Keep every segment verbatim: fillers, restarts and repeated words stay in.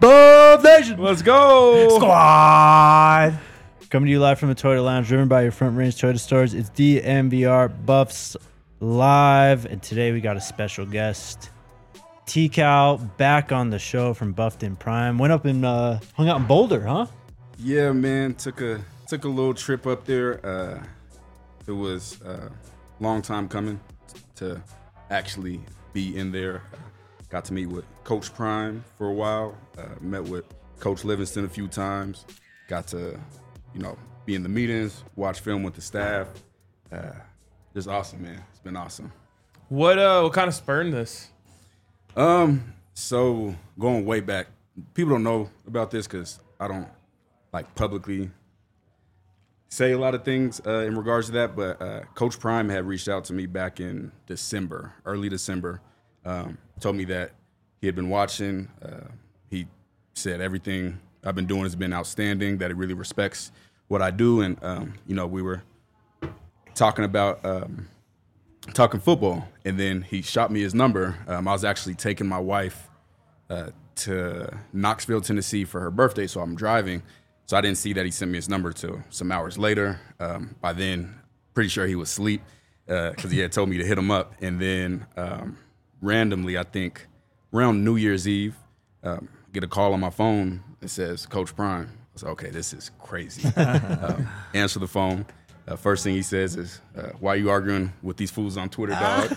Buff Nation. Let's go. Squad. Coming to you live from the Toyota Lounge, driven by your Front Range Toyota stores. It's D M V R Buffs Live, and today we got a special guest, T-Cal, back on the show from Buffed in Prime. Went up and uh, hung out in Boulder, huh? Yeah, man. Took a took a little trip up there. Uh, it was a long time coming to actually be in there. Uh, got to meet with Coach Prime for a while. Uh, met with Coach Livingston a few times. Got to, you know, be in the meetings, watch film with the staff. Uh, just awesome, man. It's been awesome. What uh, what kind of spurned this? Um, so going way back, people don't know about this because I don't like publicly say a lot of things uh, in regards to that. But uh, Coach Prime had reached out to me back in December, early December. Um, told me that he had been watching. Uh, he said everything I've been doing has been outstanding. That he really respects what I do, and um, you know, we were talking about. Um, talking football, and then he shot me his number. Um, I was actually taking my wife uh, to Knoxville, Tennessee for her birthday, so I'm driving. So I didn't see that he sent me his number till some hours later. Um, by then, pretty sure he was asleep because uh, he had told me to hit him up. And then um, randomly, I think around New Year's Eve, um, get a call on my phone that says, Coach Prime. I was like, okay, this is crazy. um, answer the phone. Uh, first thing he says is, uh, why are you arguing with these fools on Twitter, dog?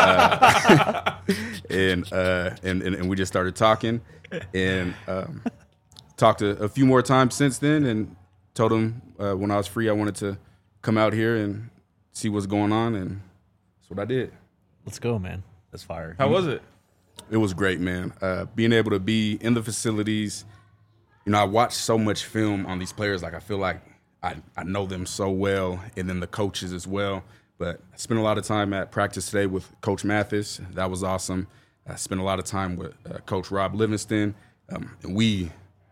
uh, and, uh, and, and and we just started talking and um, talked a, a few more times since then, and told him uh, when I was free I wanted to come out here and see what's going on, and that's what I did. Let's go, man. That's fire. How was it? It was great, man. Uh, being able to be in the facilities, you know, I watched so much film on these players. Like, I feel like I, I know them so well, and then the coaches as well. But I spent a lot of time at practice today with Coach Mathis. That was awesome. I spent a lot of time with uh, Coach Rob Livingston. Um, and we,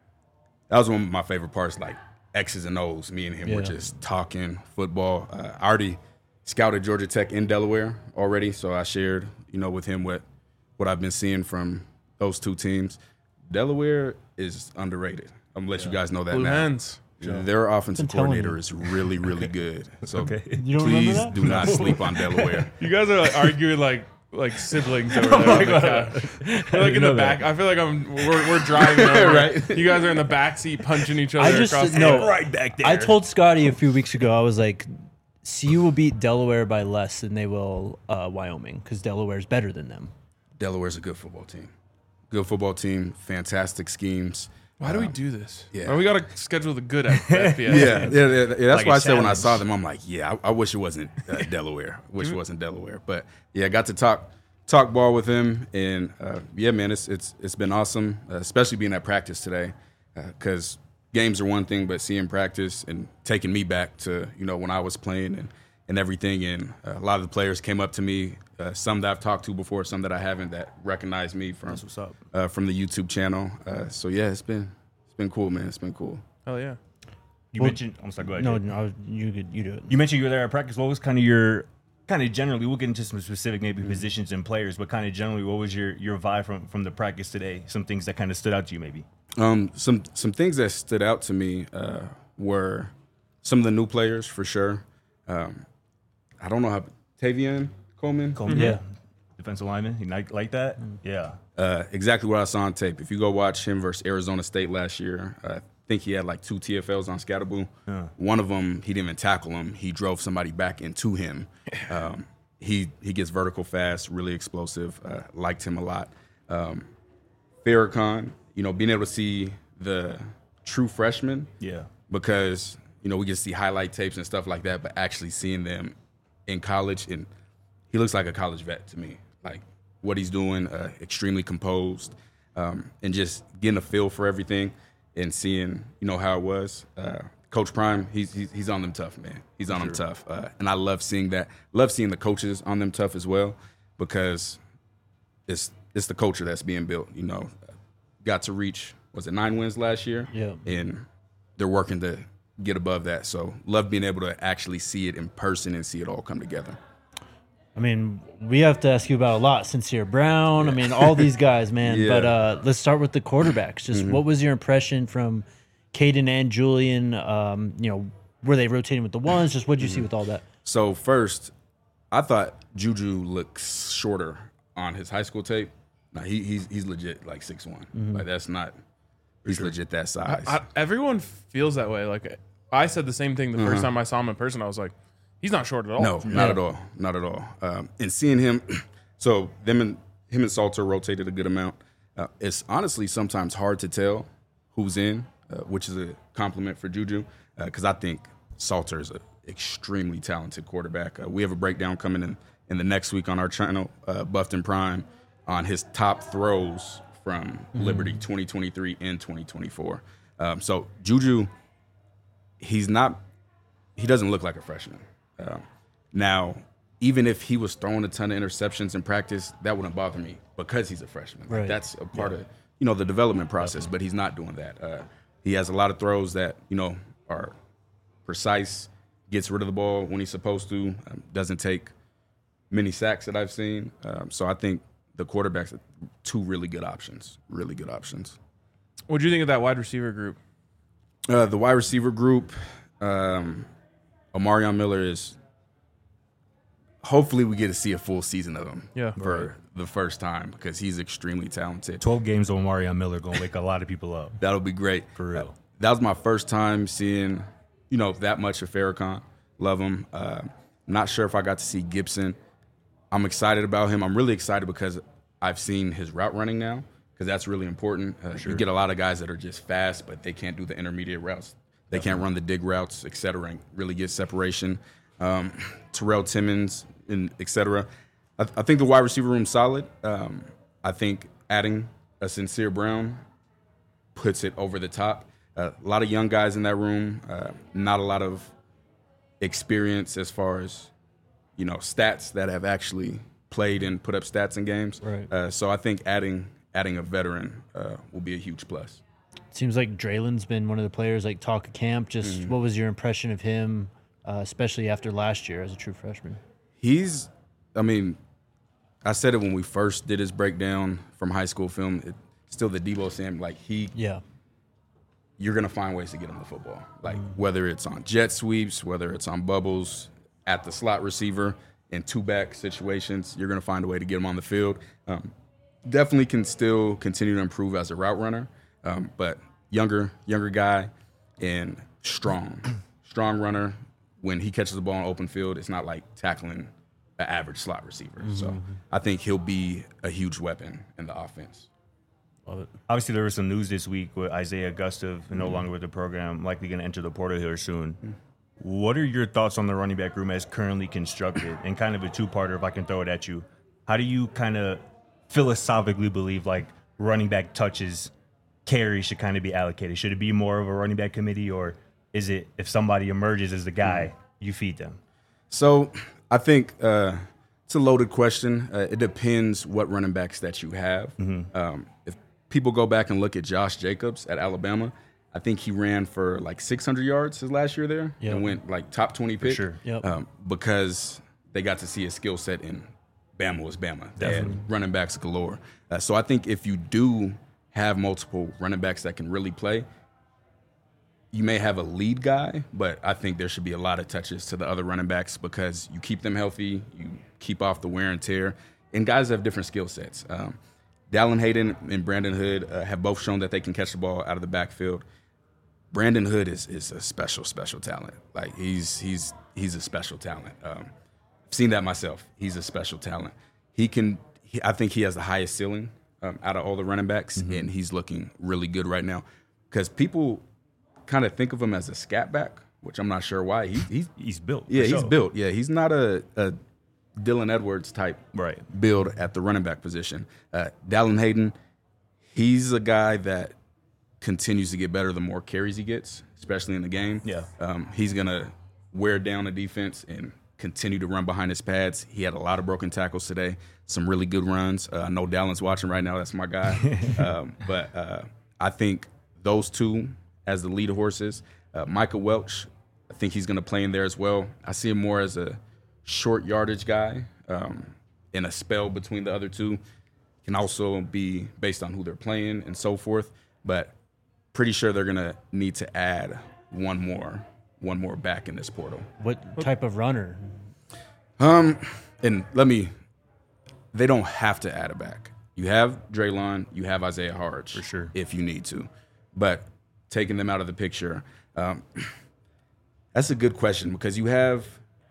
that was one of my favorite parts, like X's and O's. Me and him Yeah. were just talking football. Uh, I already scouted Georgia Tech in Delaware already, so I shared, you know, with him what, what I've been seeing from those two teams. Delaware is underrated. I'm going to let yeah. you guys know that Blue now. Hens. Yeah. Their offensive coordinator you. is really, really good. So Okay. You don't remember please that? do not sleep on Delaware. You guys are like arguing like like siblings over there. On the couch. We're like in the back. I feel like I'm we're, we're driving over. Right. You guys are in the back seat punching each other I just across the no, right back there. I told Scotty a few weeks ago, I was like, C U will beat Delaware by less than they will uh, Wyoming because Delaware's better than them. Delaware's a good football team. Good football team, fantastic schemes. Why do we do this? Yeah. Why we gotta schedule the good F B S? Yeah, yeah, yeah, yeah. That's Like why a I said when I challenge. saw them, I'm like, yeah, I, I wish it wasn't uh, Delaware. Wish it wasn't Delaware. But yeah, I got to talk talk ball with him, and uh, yeah, man, it's it's it's been awesome, uh, especially being at practice today, because uh, games are one thing, but seeing practice and taking me back to, you know, when I was playing and and everything, and uh, a lot of the players came up to me, uh, some that I've talked to before, some that I haven't, that recognize me from That's what's up. Uh, from the YouTube channel. Uh, so yeah, it's been it's been cool, man. It's been cool. Hell yeah. You Well, mentioned. I'm sorry. Go ahead. No, Jay. no, you could you do it. You mentioned you were there at practice. What was kind of your, kind of generally? We'll get into some specific maybe Mm-hmm. positions and players, but kind of generally, what was your your vibe from from the practice today? Some things that kind of stood out to you, maybe. Um, some some things that stood out to me uh, were some of the new players for sure. Um, I don't know how Tavian Coleman. Coleman, Yeah. defensive lineman. You like like that? Yeah. Uh, exactly what I saw on tape. If you go watch him versus Arizona State last year, uh, I think he had like two T F Ls on Scatterboo. Yeah. One of them, he didn't even tackle him. He drove somebody back into him. Um, he he gets vertical fast, really explosive. Uh, liked him a lot. Um, Farrakhan, you know, being able to see the true freshman, Yeah. because, you know, we get to see highlight tapes and stuff like that, but actually seeing them in college, and he looks like a college vet to me. Like what he's doing, uh, extremely composed, um, and just getting a feel for everything and seeing, you know, how it was. Uh, Coach Prime, he's, he's he's on them tough, man. He's on them tough, uh, and I love seeing that. Love seeing the coaches on them tough as well, because it's it's the culture that's being built. You know, got to reach, was it nine wins last year? Yeah. And they're working to get above that. So love being able to actually see it in person and see it all come together. I mean, we have to ask you about a lot. Sincere Brown. I mean, all these guys, man. Yeah. But uh, let's start with the quarterbacks. Just Mm-hmm. what was your impression from Caden and Julian? Um, you know, were they rotating with the ones? Just what did you Mm-hmm. see with all that? So first, I thought Juju looks shorter on his high school tape. Now he, he's he's legit like six one. Like that's not. He's legit that size. I, everyone feels that way. Like I said the same thing the first time I saw him in person. I was like, he's not short at all. No, not at all. Not at all. Um, and seeing him, so them and him and Salter rotated a good amount. Uh, it's honestly sometimes hard to tell who's in, uh, which is a compliment for Juju, because uh, I think Salter is an extremely talented quarterback. Uh, we have a breakdown coming in in the next week on our channel, uh, Buffton Prime, on his top throws from mm-hmm. Liberty twenty twenty-three and twenty twenty-four. Um, so Juju, he's not, he doesn't look like a freshman. Um, now, even if he was throwing a ton of interceptions in practice, that wouldn't bother me because he's a freshman. Like, right. That's a part yeah. of, you know, the development process, but he's not doing that. Uh, he has a lot of throws that, you know, are precise, gets rid of the ball when he's supposed to, um, doesn't take many sacks that I've seen. Um, so I think the quarterbacks are two really good options, really good options. What do you think of that wide receiver group? Uh, the wide receiver group, um, Omarion Miller is – hopefully we get to see a full season of him yeah. for right. the first time because he's extremely talented. twelve games of Omarion Miller going to wake a lot of people up. That'll be great. For real. Uh, that was my first time seeing, you know, that much of Farrakhan. Love him. Uh, not sure if I got to see Gibson. I'm excited about him. I'm really excited because I've seen his route running now because that's really important. Uh, sure. You get a lot of guys that are just fast, but they can't do the intermediate routes. They Definitely. can't run the dig routes, et cetera, and really get separation. Um, Terrell Timmons, and et cetera. I, th- I think the wide receiver room's solid. Um, I think adding a Sincere Brown puts it over the top. Uh, a lot of young guys in that room, uh, not a lot of experience as far as, you know, stats that have actually played and put up stats in games. Right. Uh, so I think adding adding a veteran uh, will be a huge plus. Seems like Draylen's been one of the players like talk of camp. Just mm-hmm. what was your impression of him, uh, especially after last year as a true freshman? He's, I mean, I said it when we first did his breakdown from high school film. It, still the Debo Sam, like he, yeah, you're gonna find ways to get him the football. Like mm-hmm. whether it's on jet sweeps, whether it's on bubbles, at the slot receiver, in two back situations, you're gonna find a way to get him on the field. Um, definitely can still continue to improve as a route runner, um, but younger, younger guy and strong, strong runner. When he catches the ball in open field, it's not like tackling an average slot receiver. Mm-hmm. So I think he'll be a huge weapon in the offense. Love it. Obviously, there was some news this week with Isaiah Gustav mm-hmm. no longer with the program, likely going to enter the portal here soon. Mm-hmm. What are your thoughts on the running back room as currently constructed? And kind of a two-parter, if I can throw it at you. How do you kind of philosophically believe like running back touches, carries should kind of be allocated? Should it be more of a running back committee, or is it if somebody emerges as the guy, mm-hmm. you feed them? So I think uh, it's a loaded question. Uh, it depends what running backs that you have. Mm-hmm. Um, if people go back and look at Josh Jacobs at Alabama, I think he ran for like six hundred yards his last year there yep. and went like top twenty pick. For sure. Yep. Um, because they got to see his skill set in Bama was Bama. They had running backs galore. Uh, so I think if you do have multiple running backs that can really play, you may have a lead guy, but I think there should be a lot of touches to the other running backs because you keep them healthy, you keep off the wear and tear, and guys have different skill sets. Um, Dallin Hayden and Brandon Hood uh, have both shown that they can catch the ball out of the backfield. Brandon Hood is is a special, special talent. Like he's he's he's a special talent. Um, I've seen that myself. He's a special talent. He can. He, I think he has the highest ceiling um, out of all the running backs, mm-hmm. and he's looking really good right now. Because people kind of think of him as a scat back, which I'm not sure why. He, he's he's built. Yeah, he's sure. built. Yeah, he's not a, a Dylan Edwards type right. build at the running back position. Uh, Dallin Hayden, he's a guy that continues to get better the more carries he gets, especially in the game. Yeah. Um, he's going to wear down the defense and continue to run behind his pads. He had a lot of broken tackles today, some really good runs. Uh, I know Dallin's watching right now. That's my guy. um, but uh, I think those two as the lead horses. Uh, Micah Welch, I think he's going to play in there as well. I see him more as a short yardage guy. um, in a spell between the other two. Can also be based on who they're playing and so forth. But pretty sure they're going to need to add one more one more back in this portal. What type of runner? Um, and let me, they don't have to add a back. You have Draylon, you have Isaiah Harge. For sure. If you need to. But taking them out of the picture, um, that's a good question because you have,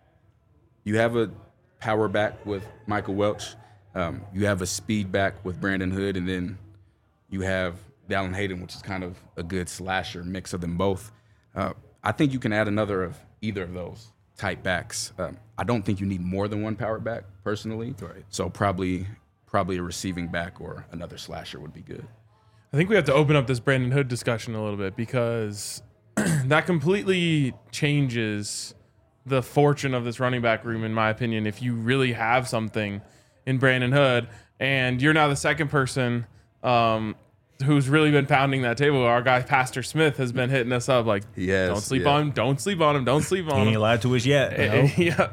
you have a power back with Michael Welch. Um, you have a speed back with Brandon Hood, and then you have Dallin Hayden, which is kind of a good slasher mix of them both. Uh, I think you can add another of either of those type backs. Um, I don't think you need more than one power back personally. Right. So probably probably a receiving back or another slasher would be good. I think we have to open up this Brandon Hood discussion a little bit because that completely changes the fortune of this running back room, in my opinion, if you really have something in Brandon Hood, and you're now the second person um, who's really been pounding that table. Our guy Pastor Smith has been hitting us up like, Yes, don't sleep yeah. on him, don't sleep on him, don't sleep on He him. ain't lied to us yet. you know? Yeah,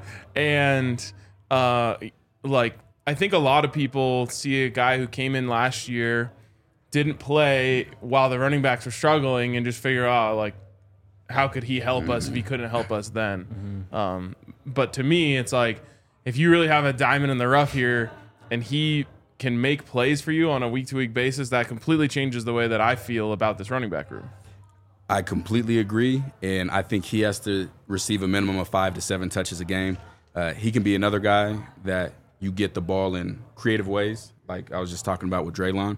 and uh, like I think a lot of people see a guy who came in last year, didn't play while the running backs were struggling, and just figure out like, how could he help us if he couldn't help us then? Mm-hmm. Um, but to me, it's like if you really have a diamond in the rough here, and he can make plays for you on a week-to-week basis, that completely changes the way that I feel about this running back room. I completely agree, and I think he has to receive a minimum of five to seven touches a game. Uh, he can be another guy that you get the ball in creative ways, like I was just talking about with Draylon.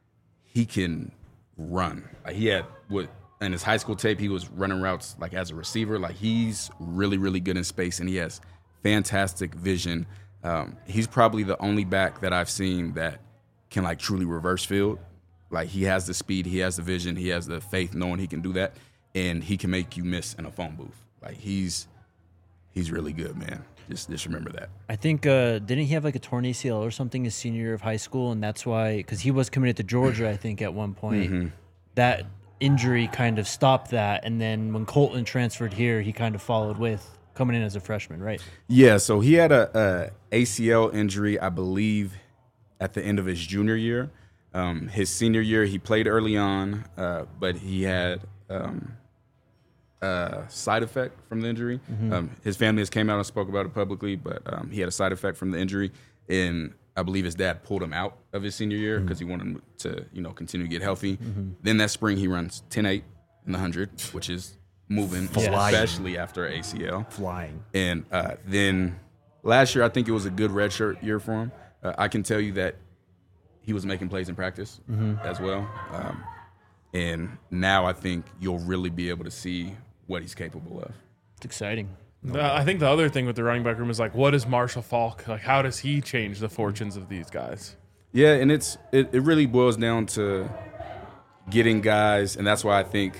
He can run. Like he had what in his high school tape, he was running routes like as a receiver. Like he's really, really good in space, and he has fantastic vision. Um, he's probably the only back that I've seen that can like truly reverse field. Like he has the speed, he has the vision, he has the faith knowing he can do that, and he can make you miss in a phone booth. Like he's he's really good, man. Just just remember that. I think uh, didn't he have like a torn A C L or something his senior year of high school, and that's why because he was committed to Georgia, I think at one point Mm-hmm. that injury kind of stopped that, and then when Colton transferred here, he kind of followed with coming in as a freshman, right? Yeah, so he had a, a A C L injury, I believe, at the end of his junior year. Um, his senior year, he played early on, uh, but he had um, a side effect from the injury. Mm-hmm. Um, his family has came out and spoke about it publicly, but um, he had a side effect from the injury, and I believe his dad pulled him out of his senior year because Mm-hmm. he wanted him to, you know, continue to get healthy. Then that spring, he runs ten eight in the one hundred, which is moving, Flying. especially after A C L. Flying. And uh, then last year, I think it was a good redshirt year for him. Uh, I can tell you that he was making plays in practice as well. Um, and now I think you'll really be able to see what he's capable of. It's exciting. The- I think the other thing with the running back room is like, what is Marshall Falk? Like, how does he change the fortunes of these guys? Yeah, and it's it, it really boils down to getting guys, and that's why I think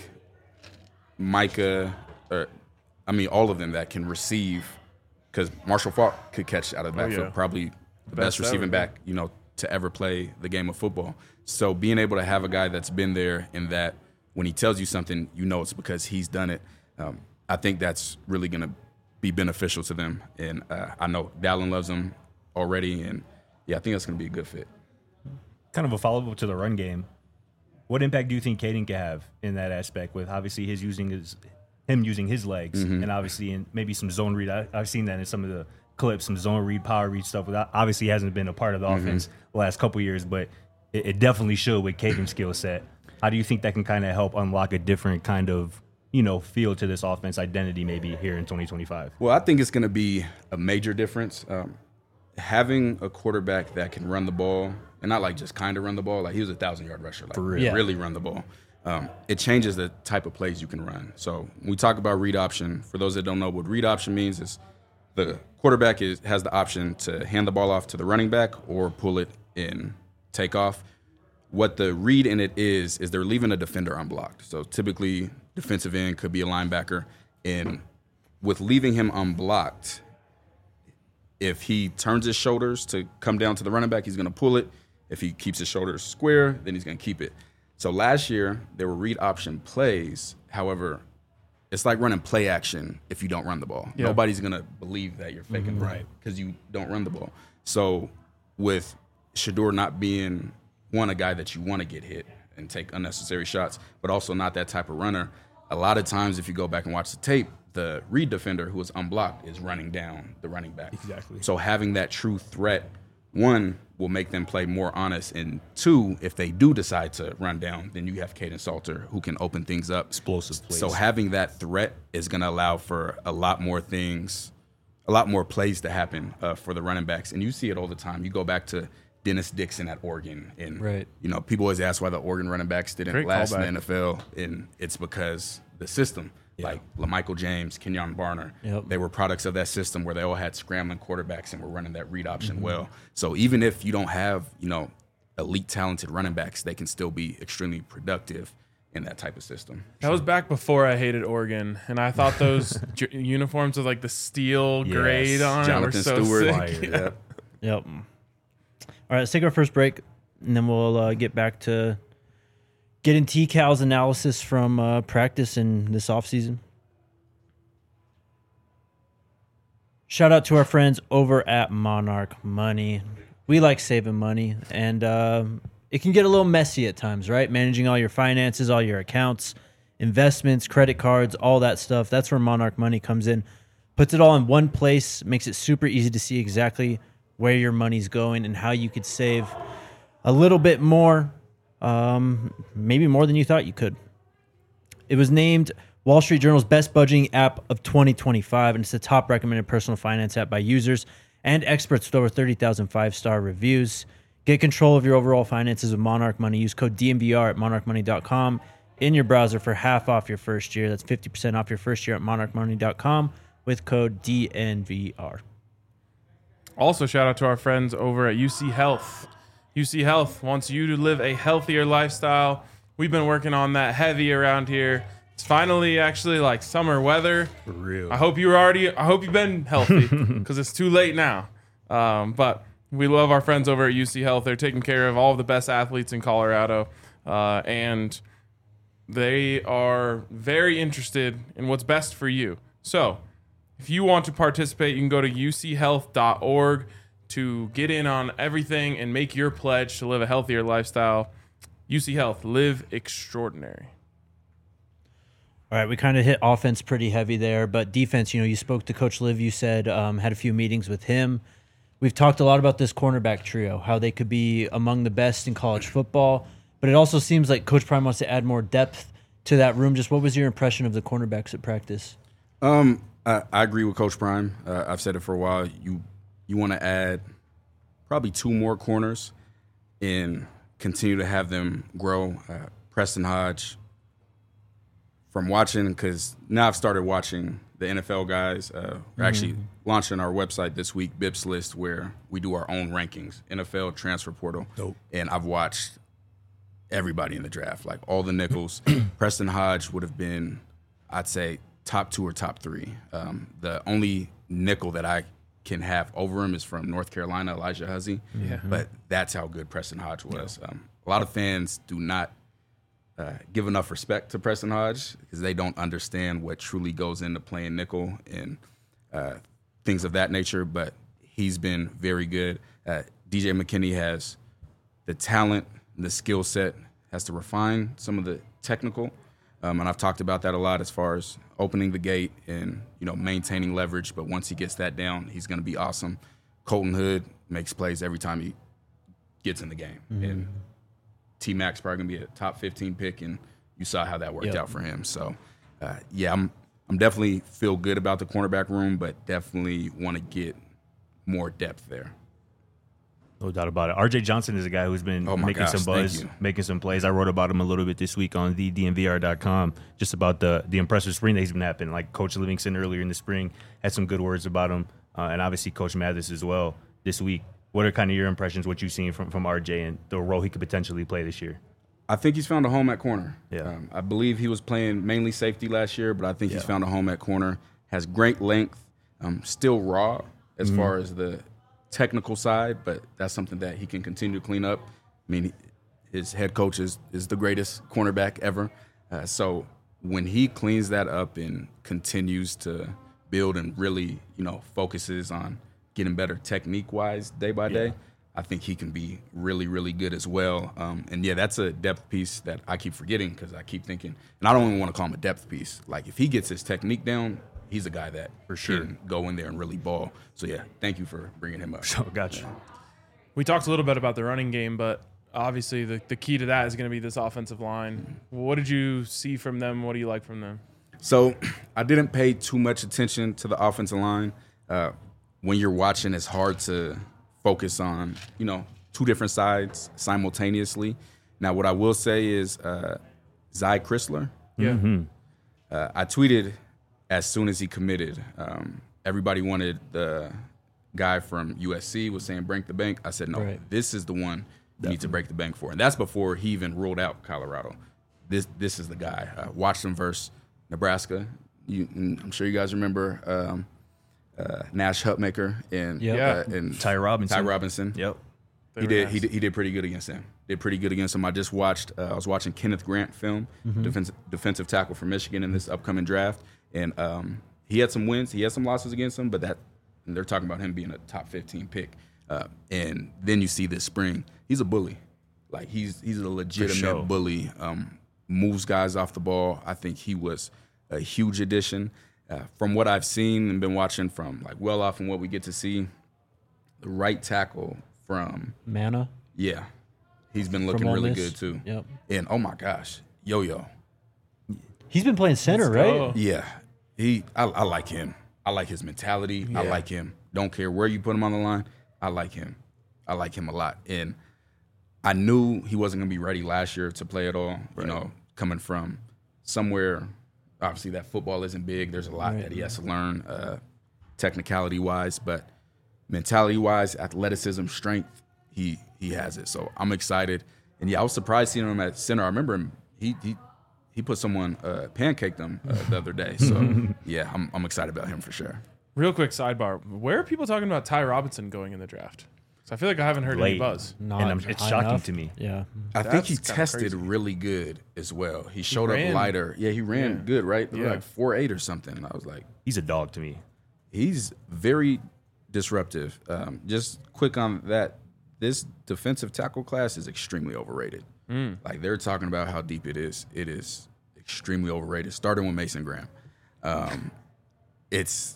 Micah, or I mean all of them that can receive, because Marshall Falk could catch out of the Oh, backfield, yeah. probably the Best best receiving ever, back, you know, to ever play the game of football. So being able to have a guy that's been there and that when he tells you something, you know it's because he's done it. Um, I think that's really going to be beneficial to them. And uh, I know Dallin loves him already, and yeah, I think that's going to be a good fit. Kind of a follow-up to the run game. What impact do you think Caden can have in that aspect with obviously his using his him using his legs Mm-hmm. and obviously in maybe some zone read? I, I've seen that in some of the clips, some zone read, power read stuff. Without, obviously hasn't been a part of the Mm-hmm. offense the last couple years, but it, it definitely showed with Caden's skill set. How do you think that can kind of help unlock a different kind of, you know, feel to this offense identity maybe here in twenty twenty-five? Well, I think it's going to be a major difference. Um, having a quarterback that can run the ball, and not like just kind of run the ball, like he was a thousand-yard rusher, like real. Yeah. really run the ball. Um, it changes the type of plays you can run. So when we talk about read option, for those that don't know what read option means, is the quarterback is, has the option to hand the ball off to the running back or pull it in take off. What the read in it is, is they're leaving a defender unblocked. So typically defensive end could be a linebacker, and with leaving him unblocked, if he turns his shoulders to come down to the running back, he's going to pull it. If he keeps his shoulders square, then he's going to keep it. So last year, there were read option plays. However, it's like running play action if you don't run the ball. Yeah. Nobody's gonna believe that you're faking Mm-hmm. the Right. because you don't run the ball. So with Shedeur not being one a guy that you want to get hit and take unnecessary shots, but also not that type of runner. A lot of times, if you go back and watch the tape, the Reed defender who is unblocked is running down the running back. Exactly. So having that true threat, one, will make them play more honest, and two, if they do decide to run down, then you have Caden Salter who can open things up. Explosive plays. So having that threat is going to allow for a lot more things, a lot more plays to happen uh, for the running backs, and you see it all the time. You go back to Dennis Dixon at Oregon, and Right. you know people always ask why the Oregon running backs didn't Great last in callback. the N F L, and it's because the system, like LaMichael James, Kenyon Barner, Yep. they were products of that system where they all had scrambling quarterbacks and were running that read option Mm-hmm. well. So even if you don't have you know elite talented running backs, they can still be extremely productive in that type of system. That was back before I hated Oregon, and I thought those j- uniforms with like the steel Yes. grade on Jonathan it were so Stewart, sick. yeah. Yep. All right, let's take our first break, and then we'll uh, get back to getting T Cal's analysis from uh, practice in this offseason. Shout out to our friends over at Monarch Money. We like saving money, and um, it can get a little messy at times, right? Managing all your finances, all your accounts, investments, credit cards, all that stuff. That's where Monarch Money comes in. Puts it all in one place, makes it super easy to see exactly where your money's going and how you could save a little bit more, um, maybe more than you thought you could. It was named Wall Street Journal's best budgeting app of twenty twenty-five, and it's the top recommended personal finance app by users and experts with over thirty thousand five-star reviews. Get control of your overall finances with Monarch Money. Use code D M V R at monarch money dot com in your browser for half off your first year. That's fifty percent off your first year at monarch money dot com with code D N V R. Also, shout out to our friends over at U C Health. U C Health wants you to live a healthier lifestyle. We've been working on that heavy around here. It's finally actually like summer weather. For real. I hope you're already. I hope you've been healthy because it's too late now. Um, but we love our friends over at U C Health. They're taking care of all of the best athletes in Colorado, uh, and they are very interested in what's best for you. So, if you want to participate, you can go to u c health dot org to get in on everything and make your pledge to live a healthier lifestyle. U C Health, live extraordinary. All right, we kind of hit offense pretty heavy there, but defense, you know, you spoke to Coach Liv, you said um, had a few meetings with him. We've talked a lot about this cornerback trio, how they could be among the best in college football, but it also seems like Coach Prime wants to add more depth to that room. Just what was your impression of the cornerbacks at practice? Um, I, I agree with Coach Prime. Uh, I've said it for a while. You you want to add probably two more corners and continue to have them grow. Uh, Preston Hodge, from watching, because now I've started watching the N F L guys. Uh, we're actually launching our website this week, Bips List, where we do our own rankings, N F L transfer portal. Dope. And I've watched everybody in the draft, like all the nickels. Preston Hodge would have been, I'd say, top two or top three. Um, the only nickel that I can have over him is from North Carolina, Elijah Huzzy. Yeah. But that's how good Preston Hodge was. Um, a lot of fans do not uh, give enough respect to Preston Hodge because they don't understand what truly goes into playing nickel and uh, things of that nature. But he's been very good. Uh, D J McKinney has the talent, the skill set, has to refine some of the technical. Um, and I've talked about that a lot as far as opening the gate and, you know, maintaining leverage. But once he gets that down, he's going to be awesome. Colton Hood makes plays every time he gets in the game. Mm-hmm. And T-Mac's probably going to be a top fifteen pick, and you saw how that worked Yep. out for him. So, uh, yeah, I'm I'm definitely feel good about the cornerback room, but definitely want to get more depth there. No doubt about it. R J Johnson is a guy who's been Oh my making gosh, some thank buzz, you. making some plays. I wrote about him a little bit this week on the D M V R dot com, just about the the impressive spring that he's been having. Like Coach Livingston earlier in the spring had some good words about him, uh, and obviously Coach Mathis as well this week. What are kind of your impressions, what you've seen from, from R J and the role he could potentially play this year? I think he's found a home at corner. Yeah. Um, I believe he was playing mainly safety last year, but I think he's Yeah. found a home at corner. Has great length, um, still raw as Mm-hmm. far as the technical side, but that's something that he can continue to clean up. I mean, his head coach is, is the greatest cornerback ever. Uh, so when he cleans that up and continues to build and really, you know, focuses on getting better technique-wise day by day, I think he can be really, really good as well. Um, and, yeah, that's a depth piece that I keep forgetting because I keep thinking – and I don't even want to call him a depth piece. Like, if he gets his technique down, he's a guy that For sure. can go in there and really ball. So, yeah, thank you for bringing him up. So, gotcha. We talked a little bit about the running game, but obviously the, the key to that is going to be this offensive line. What did you see from them? What do you like from them? So I didn't pay too much attention to the offensive line. Uh, when you're watching, it's hard to focus on, you know, two different sides simultaneously. Now, what I will say is uh, Zy Chrysler. Yeah. Mm-hmm. Uh, I tweeted as soon as he committed. Um, everybody wanted the guy from U S C was saying break the bank. I said, no, Right. this is the one you need to break the bank for. And that's before he even ruled out Colorado. This this is the guy. Uh, watched him versus Nebraska. You, I'm sure you guys remember um, uh, Nash Hutmaker and, Yep. uh, and Ty Robinson. Ty Robinson. Yep. They He were did, nice. he did. He did pretty good against him. Did pretty good against him. I just watched. Uh, I was watching Kenneth Grant film, defensive defensive tackle for Michigan in this upcoming draft, and um, he had some wins. He had some losses against him, but that and they're talking about him being a top fifteen pick. Uh, and then you see this spring, he's a bully. Like he's he's a legitimate sure. bully. Um, moves guys off the ball. I think he was a huge addition. Uh, from what I've seen and been watching from like well off and what we get to see, the right tackle from Mana. yeah, he's been looking From Ole really Miss. good too. Yep. And oh my gosh, Yo Yo, He's been playing center, Let's right? go. yeah, he I, I like him. I like his mentality. I Yeah. like him. Don't care where you put him on the line. I like him. I like him a lot. And I knew he wasn't gonna be ready last year to play at all. You know, coming from somewhere, obviously that football isn't big. There's a lot Right. that he has to learn, uh, technicality wise, but mentality wise, athleticism, strength, he he has it. So I'm excited. And yeah, I was surprised seeing him at center. I remember him. He he he put someone uh, pancaked him uh, the other day. So yeah, I'm I'm excited about him for sure. Real quick sidebar. Where are people talking about Ty Robinson going in the draft? 'Cause I feel like I haven't heard any Late. buzz. Not And I'm- it's high shocking enough. to me. Yeah. I think he That's kinda tested crazy. really good as well. He showed up ran- lighter. Yeah, he ran Yeah. good, right? Yeah. Like four eight or something. And I was like, He's a dog to me. he's very disruptive. Um, just quick on that, this defensive tackle class is extremely overrated. Like they're talking about how deep it is. It is extremely overrated. Starting with Mason Graham. Um, it's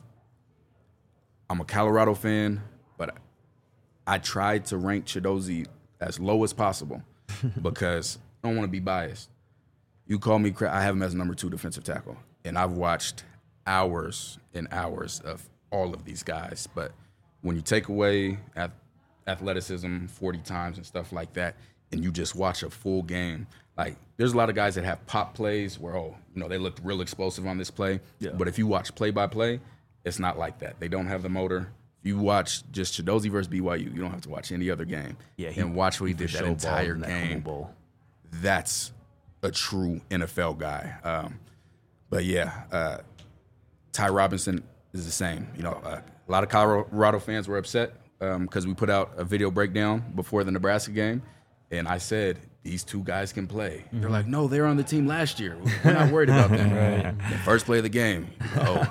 I'm a Colorado fan, but I tried to rank Chidozie as low as possible because I don't want to be biased. You call me cra I have him as number two defensive tackle, and I've watched hours and hours of all of these guys. But when you take away ath- athleticism forty times and stuff like that, and you just watch a full game, like there's a lot of guys that have pop plays where, oh, you know, they looked real explosive on this play. Yeah. But if you watch play by play, it's not like that. They don't have the motor. If you watch just Chidozie versus B Y U, you don't have to watch any other game. Yeah, he- and watch what he, he did for that show entire balled in that Home game. Bowl. That's a true N F L guy. Um, but yeah, uh, Ty Robinson is the same. You know, uh, a lot of Colorado fans were upset because we put out a video breakdown before the Nebraska game, and I said these two guys can play. They're like, no, they were on the team last year. We're not worried about them. Right. The first play of the game. Oh.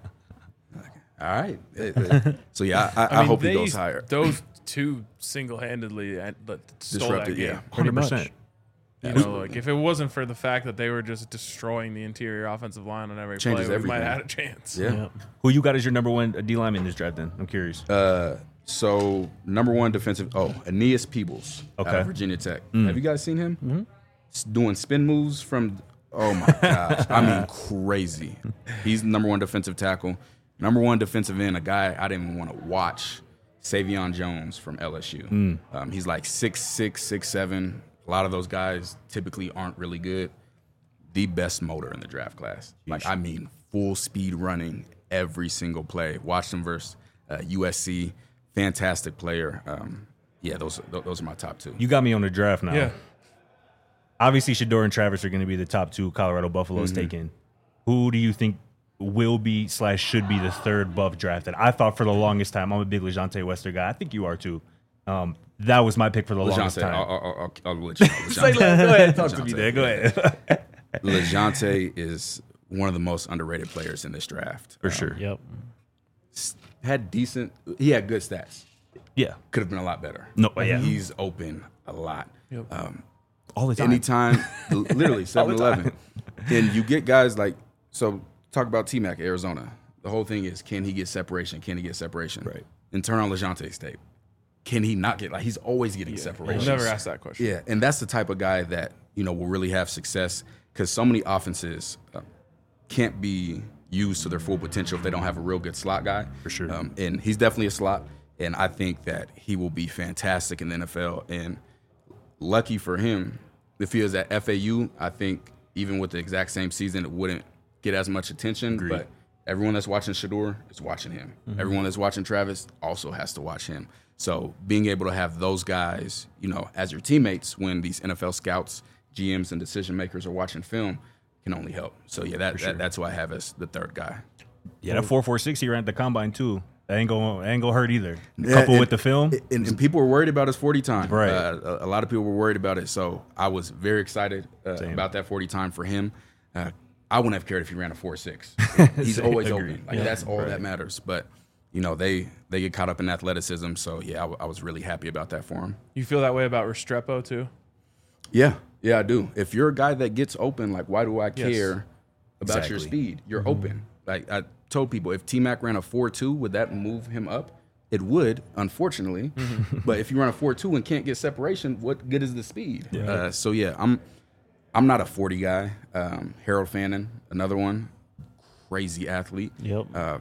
All right. So yeah, I, I, I mean, hope he they- goes higher. Those two single-handedly uh, let- stole Disrupted, that game. yeah. Pretty one hundred percent. much. You know, like if it wasn't for the fact that they were just destroying the interior offensive line on every Changes play, we might everything. have had a chance. Yeah. Yep. Who you got as your number one D lineman in this draft? Then I'm curious. Uh, so number one defensive. Oh, Aeneas Peebles, out Okay. of Virginia Tech. Have you guys seen him? Mm-hmm. Doing spin moves from. Oh my gosh! I mean, crazy. He's number one defensive tackle. Number one defensive end. A guy I didn't even want to watch. Savion Jones from L S U. Um, he's like six six, six seven. A lot of those guys typically aren't really good. The best motor in the draft class. Like, I mean, full speed running every single play. Watched him versus uh, U S C. Fantastic player. Um, yeah, those those are my top two. You got me on the draft now. Yeah. Obviously, Shador and Travis are going to be the top two Colorado Buffaloes Mm-hmm. taken. Who do you think will be slash should be the third Buff drafted? I thought for the longest time, I'm a big LeJontay Wester guy. I think you are too. Um, that was my pick for the longest LeJontay, time. I'll, I'll, I'll, I'll let you know. Say, LeJontay. go ahead, talk to me LeJontay, there. Go yeah. ahead. LeJounte is one of the most underrated players in this draft. For Um, sure. Yep. Had decent, he had good stats. Yeah. Could have been a lot better. No, yeah. He's open a lot. Yep. Um, All the time. anytime, literally seven eleven. And you get guys like, so talk about T-Mac, Arizona. The whole thing is, can he get separation? Can he get separation? Right. And turn on LeJounte's tape. Can he not get, like, he's always getting I've separation. never asked that question. Yeah, and that's the type of guy that, you know, will really have success because so many offenses uh, can't be used to their full potential if they don't have a real good slot guy. For sure. Um, and he's definitely a slot, and I think that he will be fantastic in the N F L. And lucky for him, if he was at F A U, I think even with the exact same season, it wouldn't get as much attention. Agreed. But everyone that's watching Shador is watching him. Mm-hmm. Everyone that's watching Travis also has to watch him. So being able to have those guys, you know, as your teammates when these N F L scouts, G Ms, and decision makers are watching film can only help. So yeah, that, sure. that that's who I have as the third guy. Yeah, that four four six he ran at the combine too. That ain't gonna ain't gonna hurt either. Yeah, Couple and- with the film. And, and people were worried about his forty time. Right. Uh, a, a lot of people were worried about it. So I was very excited uh, Same. about that forty time for him. Uh, I wouldn't have cared if he ran a four six. He's Same. always Agreed. open. Like Yeah. that's all Right. that matters. But you know they they get caught up in athleticism. So yeah, I, w- I was really happy about that for him. You feel that way about Restrepo too? Yeah, yeah, I do. If you're a guy that gets open, like why do I Yes. care about your Exactly. speed? You're open. Like I told people, if T-Mac ran a four two, would that move him up? It would, unfortunately. But if you run a four two and can't get separation, what good is the speed? Uh, so yeah, I'm I'm not a forty guy. Um, Harold Fannin, another one, crazy athlete. Yep. Uh,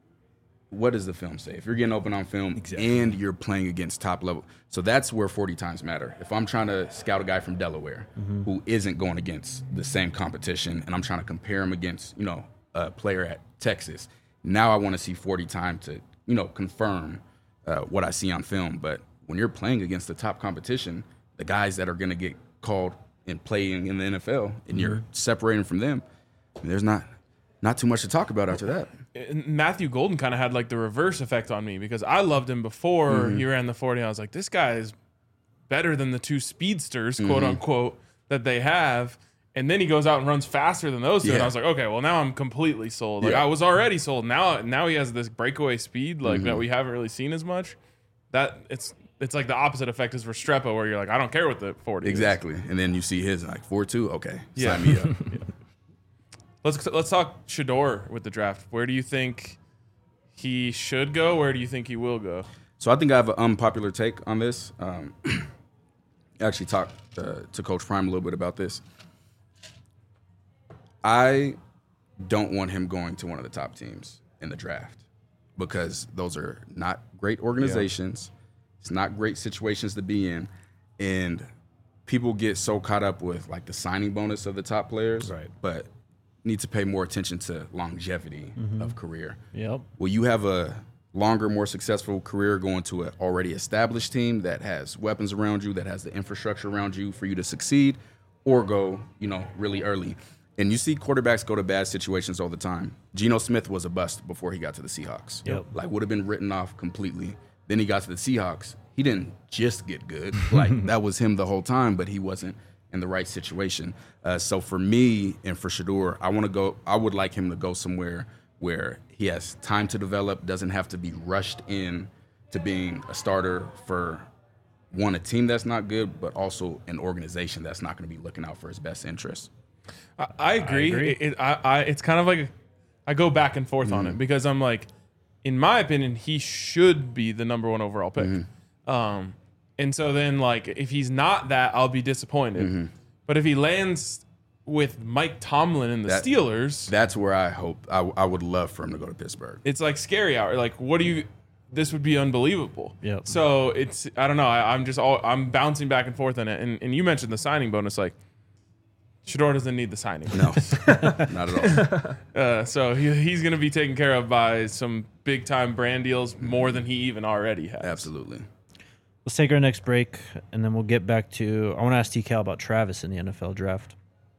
what does the film say? If you're getting open on film Exactly. and you're playing against top level, so that's where forty times matter. If I'm trying to scout a guy from Delaware who isn't going against the same competition, and I'm trying to compare him against, you know, a player at Texas, now I want to see forty time to, you know, confirm uh, what I see on film. But when you're playing against the top competition, the guys that are going to get called and playing in the N F L, and you're separating from them, there's not not too much to talk about after that. And Matthew Golden kind of had like the reverse effect on me because I loved him before Mm-hmm. he ran the forty. I was like, this guy is better than the two speedsters, quote Mm-hmm. unquote, that they have. And then he goes out and runs faster than those two. And Yeah. I was like, okay, well now I'm completely sold. Like Yeah. I was already sold. Now now he has this breakaway speed like Mm-hmm. that we haven't really seen as much. That it's it's like the opposite effect is Restrepo where you're like, I don't care what the forty is. Exactly. And then you see his like four two, okay, Yeah. sign me up. Let's let's talk Shador with the draft. Where do you think he should go? Where do you think he will go? So I think I have an unpopular take on this. Um, I actually talked uh, to Coach Prime a little bit about this. I don't want him going to one of the top teams in the draft because those are not great organizations. It's not great situations to be in. And people get so caught up with like the signing bonus of the top players, Right. but need to pay more attention to longevity of career. Yep. Well, you have a longer, more successful career going to an already established team that has weapons around you, that has the infrastructure around you for you to succeed, or go, you know, really early. And you see quarterbacks go to bad situations all the time. Geno Smith was a bust before he got to the Seahawks. Yep. Like, would have been written off completely. Then he got to the Seahawks. He didn't just get good. Like, that was him the whole time, but he wasn't in the right situation. Uh, so for me and for Shador, I want to go, I would like him to go somewhere where he has time to develop, doesn't have to be rushed in to being a starter for one, a team that's not good, but also an organization that's not going to be looking out for his best interests. I, I agree. agree. It, it, I, I, it's kind of like I go back and forth on it because I'm like, in my opinion, he should be the number one overall pick. Um, and so then, like, if he's not that, I'll be disappointed. But if he lands with Mike Tomlin and the That- Steelers, That's where I hope, I, I would love for him to go to Pittsburgh. it's like scary hour. Like, what do you? This would be unbelievable. Yep. So it's I don't know. I, I'm just all I'm bouncing back and forth on it. And and you mentioned the signing bonus. Like, Shador doesn't need the signing. No, not at all. Uh, so he, he's going to be taken care of by some big time brand deals more than he even already has. Absolutely. Let's take our next break, and then we'll get back to. I want to ask T Cal about Travis in the N F L draft.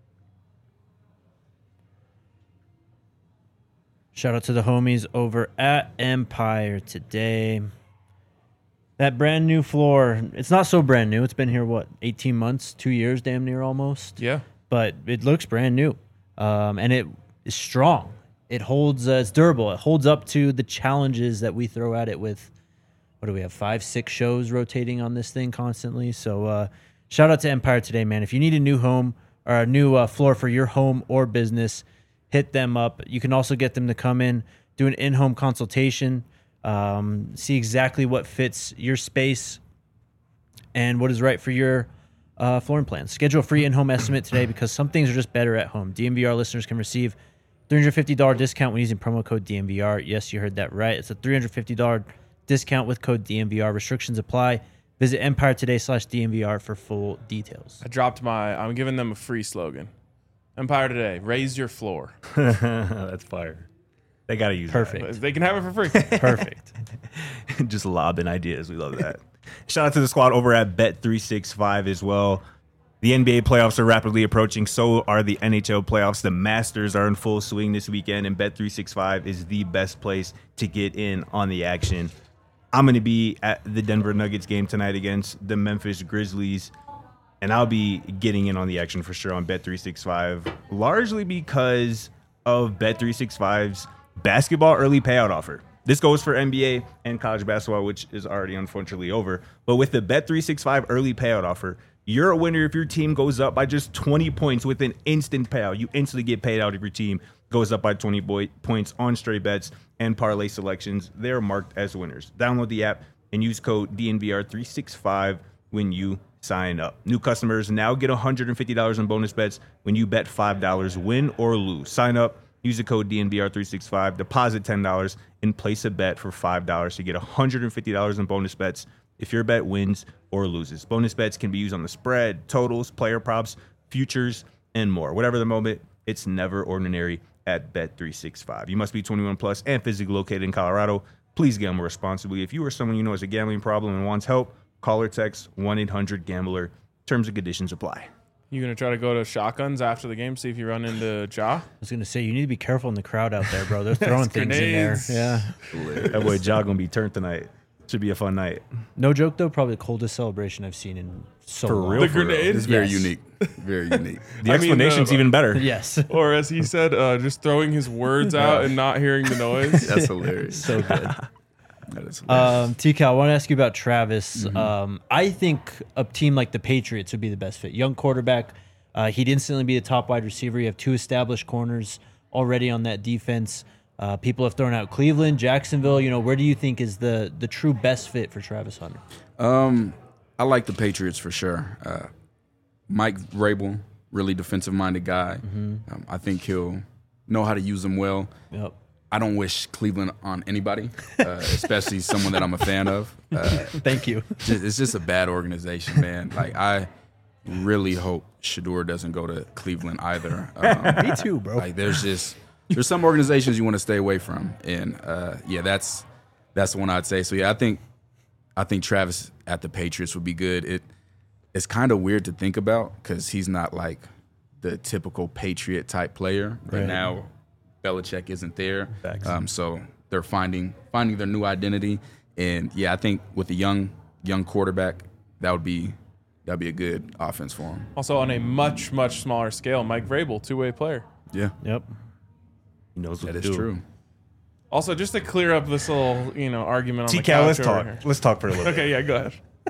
Shout out to the homies over at Empire today. That brand new floor, it's not so brand new. It's been here, what, eighteen months, two years, damn near almost. Yeah. but it looks brand new, um, and it is strong. It holds. Uh, it's durable. It holds up to the challenges that we throw at it with. What do we have? Five, six shows rotating on this thing constantly. So uh, shout out to Empire Today, man. If you need a new home or a new uh, floor for your home or business, hit them up. You can also get them to come in, do an in-home consultation, um, see exactly what fits your space and what is right for your uh, flooring plan. Schedule a free in-home estimate today because some things are just better at home. D M V R listeners can receive three hundred fifty dollars discount when using promo code D M V R. Yes, you heard that right. It's a three hundred fifty dollars discount with code D M V R. Restrictions apply. Visit Empire Today slash D M V R for full details. I dropped my, I'm giving them a free slogan. Empire Today, raise your floor. That's fire. They got to use Perfect. They can have it for free. Perfect. that. Just lobbing ideas. We love that. Shout out to the squad over at Bet three sixty-five as well. The N B A playoffs are rapidly approaching. So are the N H L playoffs. The Masters are in full swing this weekend, and Bet three sixty-five is the best place to get in on the action. I'm going to be at the Denver Nuggets game tonight against the Memphis Grizzlies, and I'll be getting in on the action for sure on Bet three sixty-five, largely because of Bet three sixty-five's basketball early payout offer. This goes for N B A and college basketball, which is already unfortunately over. But with the Bet three sixty-five early payout offer, you're a winner if your team goes up by just twenty points with an instant payout. You instantly get paid out if your team goes up by twenty boy- points on straight bets and parlay selections. They're marked as winners. Download the app and use code D N V R three sixty-five when you sign up. New customers now get one hundred fifty dollars in bonus bets when you bet five dollars, win or lose. Sign up, use the code D N V R three sixty-five, deposit ten dollars, and place a bet for five dollars to get one hundred fifty dollars in bonus bets if your bet wins or loses. Bonus bets can be used on the spread, totals, player props, futures, and more. Whatever the moment, it's never ordinary at Bet three sixty-five. You must be twenty-one plus and physically located in Colorado. Please gamble responsibly. If you or someone you know has a gambling problem and wants help, call or text one eight hundred gambler. Terms and conditions apply. You going to try to go to shotguns after the game, see if you run into Ja? I was going to say, you need to be careful in the crowd out there, bro. They're throwing things Grenades. in there. Yeah. That boy Ja gonna be turned tonight. Should be a fun night. No joke, though, probably the coldest celebration I've seen in so For long. real? The for real. grenade? It's very Yes. unique. Very unique. The I mean, explanation's uh, even better. Yes. Or as he said, uh, just throwing his words out and not hearing the noise. That's hilarious. So good. That is hilarious. Um, T Cal, I want to ask you about Travis. Um, I think a team like the Patriots would be the best fit. Young quarterback. Uh, he'd instantly be the top wide receiver. You have two established corners already on that defense. Uh, people have thrown out Cleveland, Jacksonville. You know, where do you think is the the true best fit for Travis Hunter? Um, I like the Patriots for sure. Uh, Mike Vrabel, really defensive-minded guy. Um, I think he'll know how to use them well. Yep. I don't wish Cleveland on anybody, uh, especially someone that I'm a fan of. Uh, Thank you. just, it's just a bad organization, man. Like, I really hope Shador doesn't go to Cleveland either. Um, Me too, bro. like, there's just there's some organizations you want to stay away from, and uh, yeah, that's that's the one I'd say. So yeah, I think I think Travis at the Patriots would be good. It it's kind of weird to think about because he's not like the typical Patriot type player. Right, Right. now, Belichick isn't there, Facts. um, so they're finding finding their new identity. And yeah, I think with a young young quarterback, that would be that'd be a good offense for him. Also on a much, much smaller scale, Mike Vrabel, two-way player. Yeah, Yep. He knows what that to is do. true. Also, just to clear up this little, you know, argument on the T-Cal, couch let's over talk. here. Let's talk for a little bit. Okay, yeah, go ahead.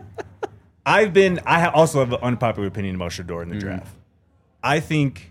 I've been. I ha- also have an unpopular opinion about Shador in the draft. I think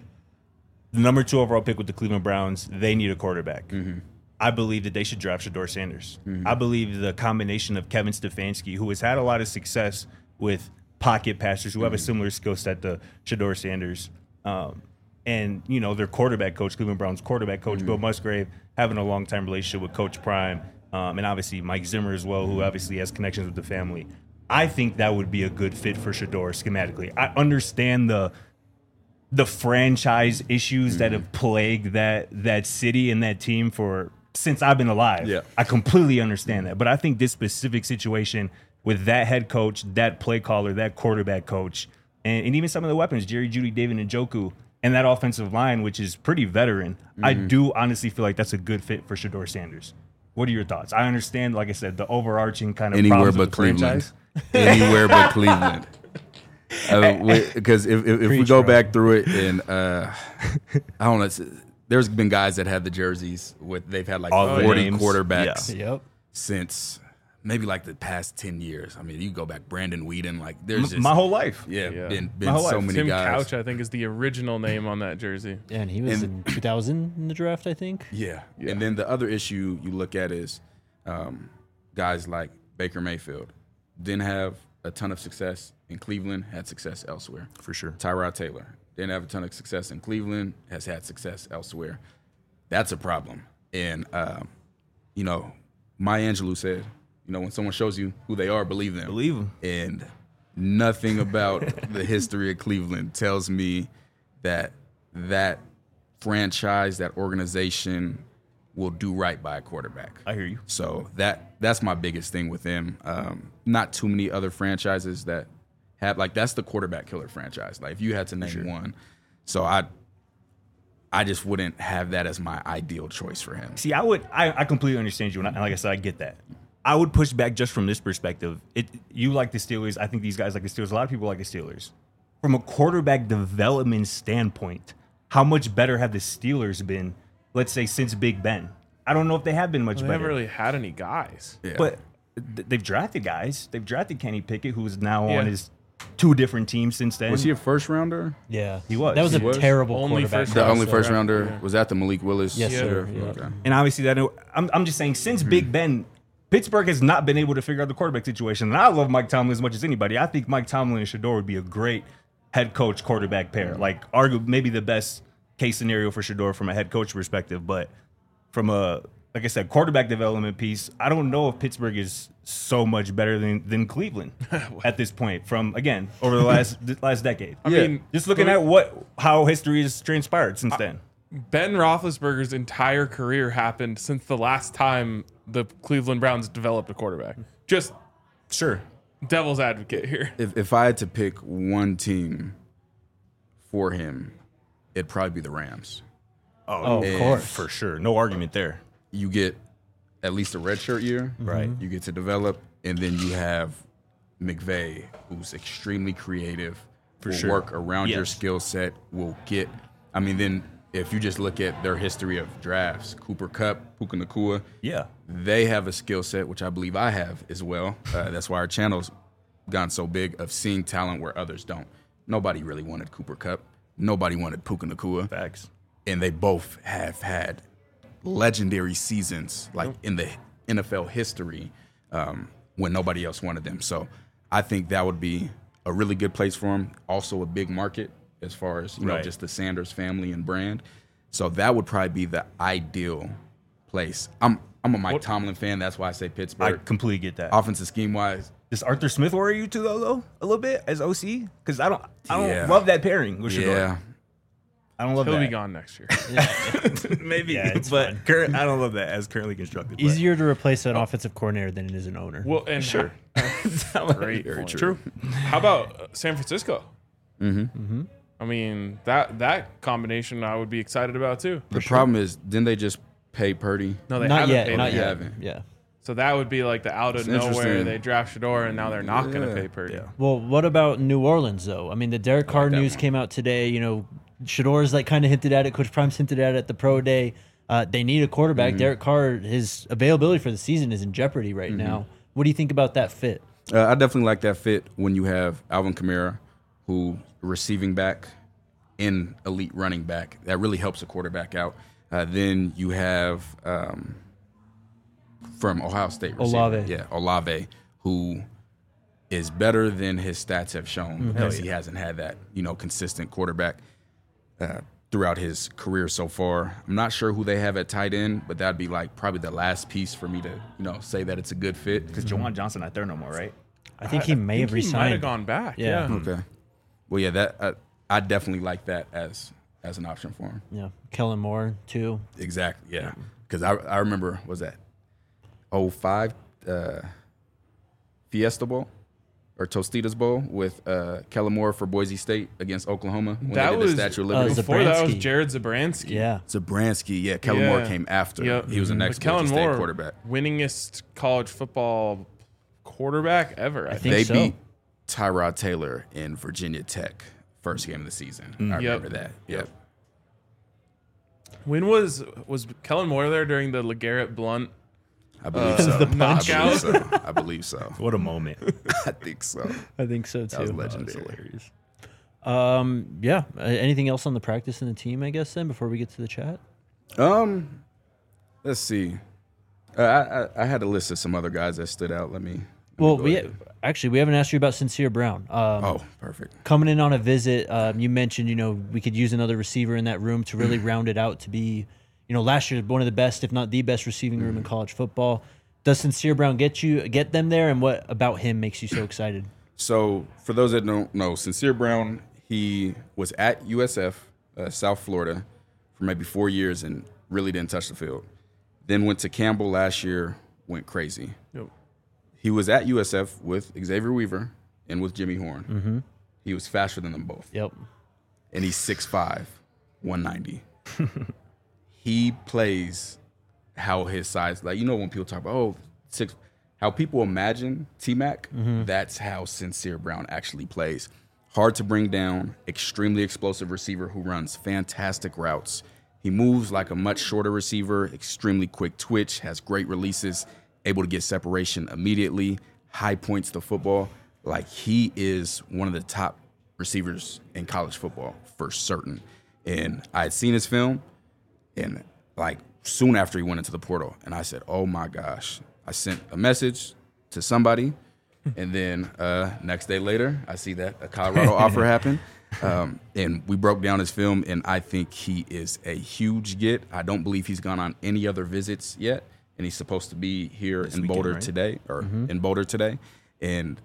the number two overall pick with the Cleveland Browns, they need a quarterback. I believe that they should draft Shador Sanders. I believe the combination of Kevin Stefanski, who has had a lot of success with pocket passers who have a similar skill set to Shador Sanders, um, and you know their quarterback coach, Cleveland Browns quarterback coach Bill Musgrave, having a long time relationship with Coach Prime, um, and obviously Mike Zimmer as well, who obviously has connections with the family. I think that would be a good fit for Shador schematically. I understand the the franchise issues that have plagued that that city and that team for since I've been alive. Yeah. I completely understand that. But I think this specific situation with that head coach, that play caller, that quarterback coach, and, and even some of the weapons, Jerry Jeudy, David Njoku, and that offensive line, which is pretty veteran, I do honestly feel like that's a good fit for Shador Sanders. What are your thoughts? I understand, like I said, the overarching kind of Anywhere problems but with the Cleveland. franchise. Anywhere but Cleveland. Because if, if, if we Preach, go bro. back through it, and uh, I don't know, it's, there's been guys that had the jerseys with they've had like All the forty names. quarterbacks Yep. since maybe like the past ten years. I mean, you go back Brandon Whedon, like there's just My whole life. yeah, Yeah. been My been whole so life. many Tim guys. Couch, I think, is the original name on that jersey. Yeah, and he was And- in two thousand in the draft, I think. Yeah. Yeah. And then the other issue you look at is um, guys like Baker Mayfield didn't have a ton of success in Cleveland, had success elsewhere. For sure. Tyrod Taylor didn't have a ton of success in Cleveland, has had success elsewhere. That's a problem. And, um, you know, Maya Angelou said, you know, when someone shows you who they are, believe them. Believe him. And nothing about the history of Cleveland tells me that that franchise, that organization will do right by a quarterback. I hear you. So that that's my biggest thing with him. Um, not too many other franchises that have like that's the quarterback killer franchise. Like if you had to name one, so I I just wouldn't have that as my ideal choice for him. See, I would, I, I completely understand you, and, I, and like I said, I get that. I would push back just from this perspective. It, you like the Steelers. I think these guys like the Steelers. A lot of people like the Steelers. From a quarterback development standpoint, how much better have the Steelers been? Let's say since Big Ben. I don't know if they have been much They better. haven't really had any guys. Yeah. But th- they've drafted guys. They've drafted Kenny Pickett, who's now Yeah. on his two different teams since then. Was he a first rounder? Yeah, He was. That was He a was. terrible Only quarterback. first The class, only though. first Yeah. rounder Yeah. was that the Malik Willis. Yes, sir. era? Yeah. Okay. And obviously, that I'm, I'm just saying, since Big Ben, Pittsburgh has not been able to figure out the quarterback situation. And I love Mike Tomlin as much as anybody. I think Mike Tomlin and Shador would be a great head coach quarterback pair. Like, arguably, maybe the best case scenario for Shador from a head coach perspective. But from a, like I said, quarterback development piece, I don't know if Pittsburgh is so much better than, than Cleveland at this point. From again over the last the last decade. I Yeah. mean, Just looking at what how history has transpired since then. Ben Roethlisberger's entire career happened since the last time the Cleveland Browns developed a quarterback. Just Sure. devil's advocate here. If if I had to pick one team for him, it'd probably be the Rams. Oh, of And course. For sure. No argument there. You get at least a redshirt year, Right. You get to develop, and then you have McVay, who's extremely creative, For will sure. work around your Yes. skill set. Will get. I mean, then if you just look at their history of drafts, Cooper Kupp, Puka Nacua, Yeah. they have a skill set which I believe I have as well. Uh, that's why our channel's gotten so big of seeing talent where others don't. Nobody really wanted Cooper Kupp. Nobody wanted Puka Nacua. Facts. And they both have had legendary seasons, like in the N F L history, um, when nobody else wanted them. So I think that would be a really good place for them. Also a big market as far as, you know, Right. just the Sanders family and brand. So that would probably be the ideal place. I'm I'm a Mike What- Tomlin fan. That's why I say I Pittsburgh. completely get that. Offensive scheme wise, Does Arthur Smith worry you too, though, though, a little bit as O C? Because I don't, I don't Yeah. love that pairing with Shador. yeah. I don't love He'll that. be gone next year. Maybe, Yeah, it's but fine. current, I don't love that as currently constructed. but- Easier to replace an offensive coordinator than it is an owner. Well, and Sure. great, Very point. true. How about uh, San Francisco? Mm-hmm. I mean that that combination I would be excited about too. The problem is, didn't they just pay Purdy? No, they not haven't yet. paid Not him. yet. haven't. Yeah. So that would be like the out of It's nowhere interesting. they draft Shador and now they're not going Yeah. to pay Purdy. Yeah. Well, what about New Orleans though? I mean, the Derek Carr that news one. came out today. You know, Shador's like kind of hinted at it. Coach Prime's hinted at it at the pro day. Uh, they need a quarterback. Mm-hmm. Derek Carr, his availability for the season is in jeopardy right Mm-hmm. now. What do you think about that fit? Uh, I definitely like that fit when you have Alvin Kamara, who receiving back and elite running back. That really helps a quarterback out. Uh, then you have um, from Ohio State receiver. Olave. Yeah, Olave, who is better than his stats have shown Mm-hmm. because he hasn't had that, you know, consistent quarterback uh, throughout his career so far. I'm not sure who they have at tight end, but that'd be like probably the last piece for me to, you know, say that it's a good fit. Because Jawan Johnson not there no more, right? I think he may I have think he might have resigned. gone back. Yeah. Yeah. Okay. Well, yeah, that uh, I definitely like that as as an option for him. Yeah, Kellen Moore too. Exactly. Yeah. Because I I remember was that oh five uh, Fiesta Bowl or Tostitos Bowl with uh, Kellen Moore for Boise State against Oklahoma when That they did was- the Statue of uh, Liberty. Zab- Before that was Zabransky. Jared Zabransky. Yeah, Zabransky, yeah, Kellen Moore Yeah. came after. Yep. He was the But next Kellen Boise State Moore, quarterback. winningest college football quarterback ever. I, I think. think They so. beat Tyrod Taylor in Virginia Tech, first game of the season. I Yep. remember that. Yep. When was was Kellen Moore there during the LeGarrette Blunt? I believe Uh, so. the I knockout? believe so. I believe so. What a moment. I think so. I think so too. That was legendary. hilarious. Um, yeah. Uh, anything else on the practice and the team? I guess then before we get to the chat. Um, let's see. Uh, I, I I had a list of some other guys that stood out. Let me. let me Well, go we ahead. actually we haven't asked you about Sincere Brown. Um, Oh, perfect. coming in on a visit, um, you mentioned you know we could use another receiver in that room to really round it out to be, you know, last year one of the best, if not the best, receiving room in college football. Does Sincere Brown get you get them there, and what about him makes you so excited? So, for those that don't know, Sincere Brown, he was at U S F, uh, South Florida, for maybe four years and really didn't touch the field. Then went to Campbell last year, went crazy. Yep. He was at U S F with Xavier Weaver and with Jimmy Horn. Mm-hmm. He was faster than them both. Yep. And he's six five, one ninety. He plays how his size, like, you know, when people talk about, oh, six, how people imagine T-Mac, that's how Sincere Brown actually plays. Hard to bring down, extremely explosive receiver who runs fantastic routes. He moves like a much shorter receiver, extremely quick twitch, has great releases, able to get separation immediately, high points to football. Like, he is one of the top receivers in college football for certain. And I had seen his film, and like soon after he went into the portal, and I said, oh my gosh. I sent a message to somebody, and then uh, next day later, I see that a Colorado offer happened. Um, and we broke down his film, and I think he is a huge get. I don't believe he's gone on any other visits yet, and he's supposed to be here This in weekend, Boulder right? today, or in Boulder today. And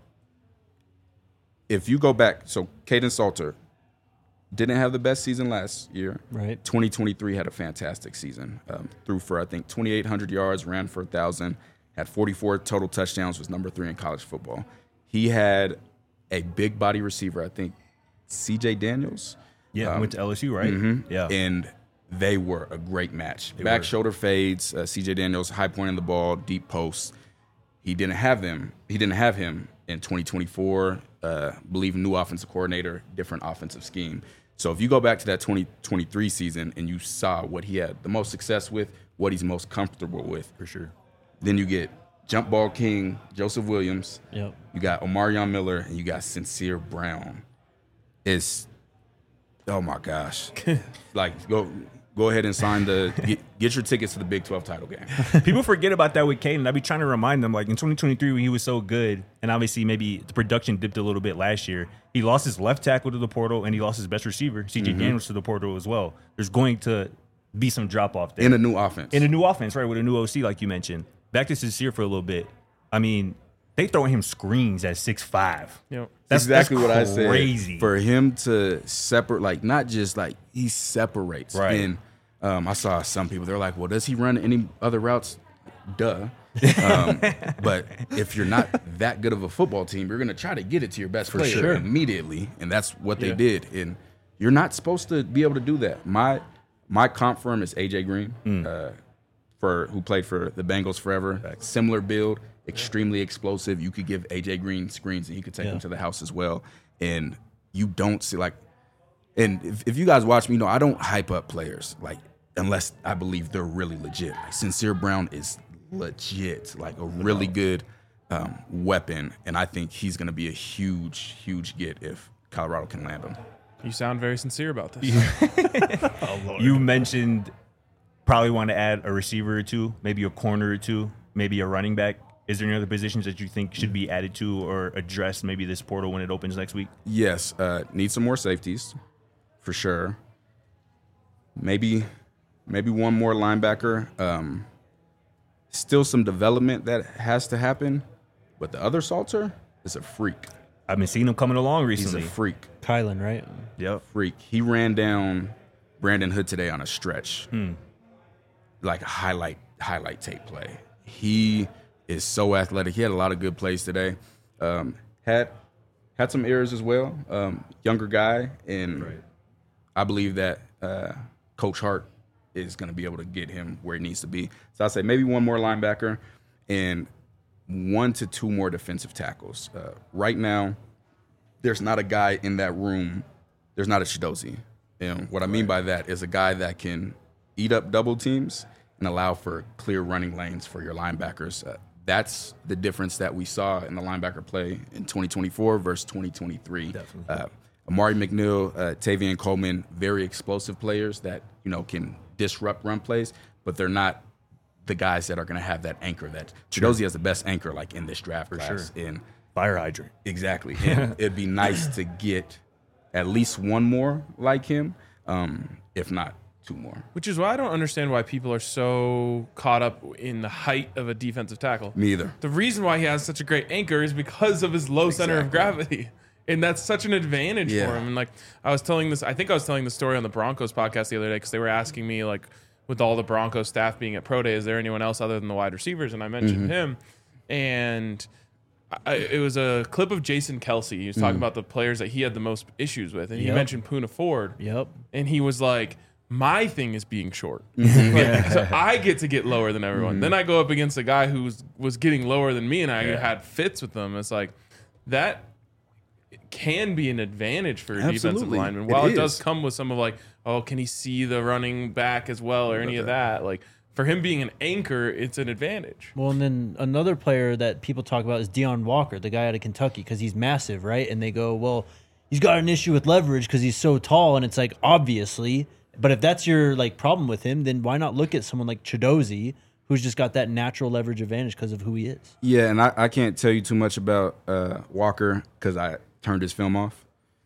if you go back, so Caden Salter didn't have the best season last year. Right. twenty twenty-three had a fantastic season. Um, threw for, I think, twenty-eight hundred yards, ran for one thousand, had forty-four total touchdowns, was number three in college football. He had a big body receiver, I think, C J Daniels. Yeah, Um, went to L S U, right? Mhm. Yeah. And they were a great match. Back were. shoulder fades, uh, C J Daniels high pointing the ball, deep posts. He didn't have them. He didn't have him in twenty twenty-four. Uh, believe new offensive coordinator, different offensive scheme. So if you go back to that twenty twenty-three season and you saw what he had the most success with, what he's most comfortable with, For sure. then you get jump ball king Joseph Williams. Yep. You got Omarion Miller, and you got Sincere Brown. It's, oh my gosh. Like, go go ahead and sign the, get, get your tickets to the Big twelve title game. People forget about that with Caden. I be trying to remind them, like in twenty twenty-three when he was so good, and obviously maybe the production dipped a little bit last year. He lost his left tackle to the portal, and he lost his best receiver, C J Daniels, to the portal as well. There's going to be some drop off there In a new offense. in a new offense, right? With a new O C, like you mentioned. Back to Sincere for a little bit. I mean, they throwing him screens at six five. Yep. That's exactly that's what I said. Crazy. For him to separate, like, not just like he separates. Right. And um, I saw some people, they're like, well, does he run any other routes? Duh. Um, but if you're not that good of a football team, you're going to try to get it to your best player sure. immediately. And that's what they Yeah. did. And you're not supposed to be able to do that. My my comp firm is A J Green, uh, for who played for the Bengals forever. Similar build, extremely explosive. You could give A J Green screens and he could take Yeah. them to the house as well. And you don't see, like, and if, if you guys watch me, you know, I don't hype up players, like, unless I believe they're really legit. Like, Sincere Brown is legit, like a really good um, weapon. And I think he's going to be a huge, huge get if Colorado can land him. You sound very sincere about this. You mentioned probably want to add a receiver or two, maybe a corner or two, maybe a running back. Is there any other positions that you think should be added to or addressed maybe this portal when it opens next week? Yes, uh, need some more safeties, for sure. Maybe, maybe one more linebacker. Um, still some development that has to happen, but the other Salter is a freak. I've been seeing him coming along He's recently. a freak, Kylan, right? Yep. freak. He ran down Brandon Hood today on a stretch, like a highlight highlight tape play. He is so athletic. He had a lot of good plays today. Um, had had some errors as well. Um, younger guy, and I believe that uh, Coach Hart is going to be able to get him where he needs to be. So I say maybe one more linebacker and one to two more defensive tackles. Uh, right now, there's not a guy in that room. There's not a Chidozie. And what I mean by that is a guy that can eat up double teams and allow for clear running lanes for your linebackers. Uh, that's the difference that we saw in the linebacker play in twenty twenty-four versus twenty twenty-three. Definitely. Uh, Amari McNeil, uh, Tavian Coleman, very explosive players that, you know, can disrupt run plays, but they're not the guys that are going to have that anchor. That Chidozie has the best anchor, like in this draft class. sure. And Fire hydrant. exactly, and it'd be nice to get at least one more like him, um, if not two more. Which is why I don't understand why people are so caught up in the height of a defensive tackle. Me either. The reason why he has such a great anchor is because of his low center of Exactly. gravity. And that's such an advantage Yeah. for him. And like I was telling this, I think I was telling the story on the Broncos podcast the other day because they were asking me, like, with all the Broncos staff being at Pro Day, is there anyone else other than the wide receivers? And I mentioned Mm-hmm. him. And I, it was a clip of Jason Kelsey. He was talking Mm. about the players that he had the most issues with. And he Yep. mentioned Poona Ford. Yep. And he was like, my thing is being short. Mm-hmm. Like, so I get to get lower than everyone. Then I go up against a guy who was, was getting lower than me, and I had fits with them. It's like that can be an advantage for a defensive Absolutely. lineman. It While it, does is. come with some of like, oh, can he see the running back as well or any of that? Like for him being an anchor, it's an advantage. Well, and then another player that people talk about is Deion Walker, the guy out of Kentucky, because he's massive, right? And they go, well, he's got an issue with leverage because he's so tall, and it's like obviously. But if that's your like problem with him, then why not look at someone like Chidozie, who's just got that natural leverage advantage because of who he is? Yeah, and I, I can't tell you too much about uh, Walker because I turned his film off.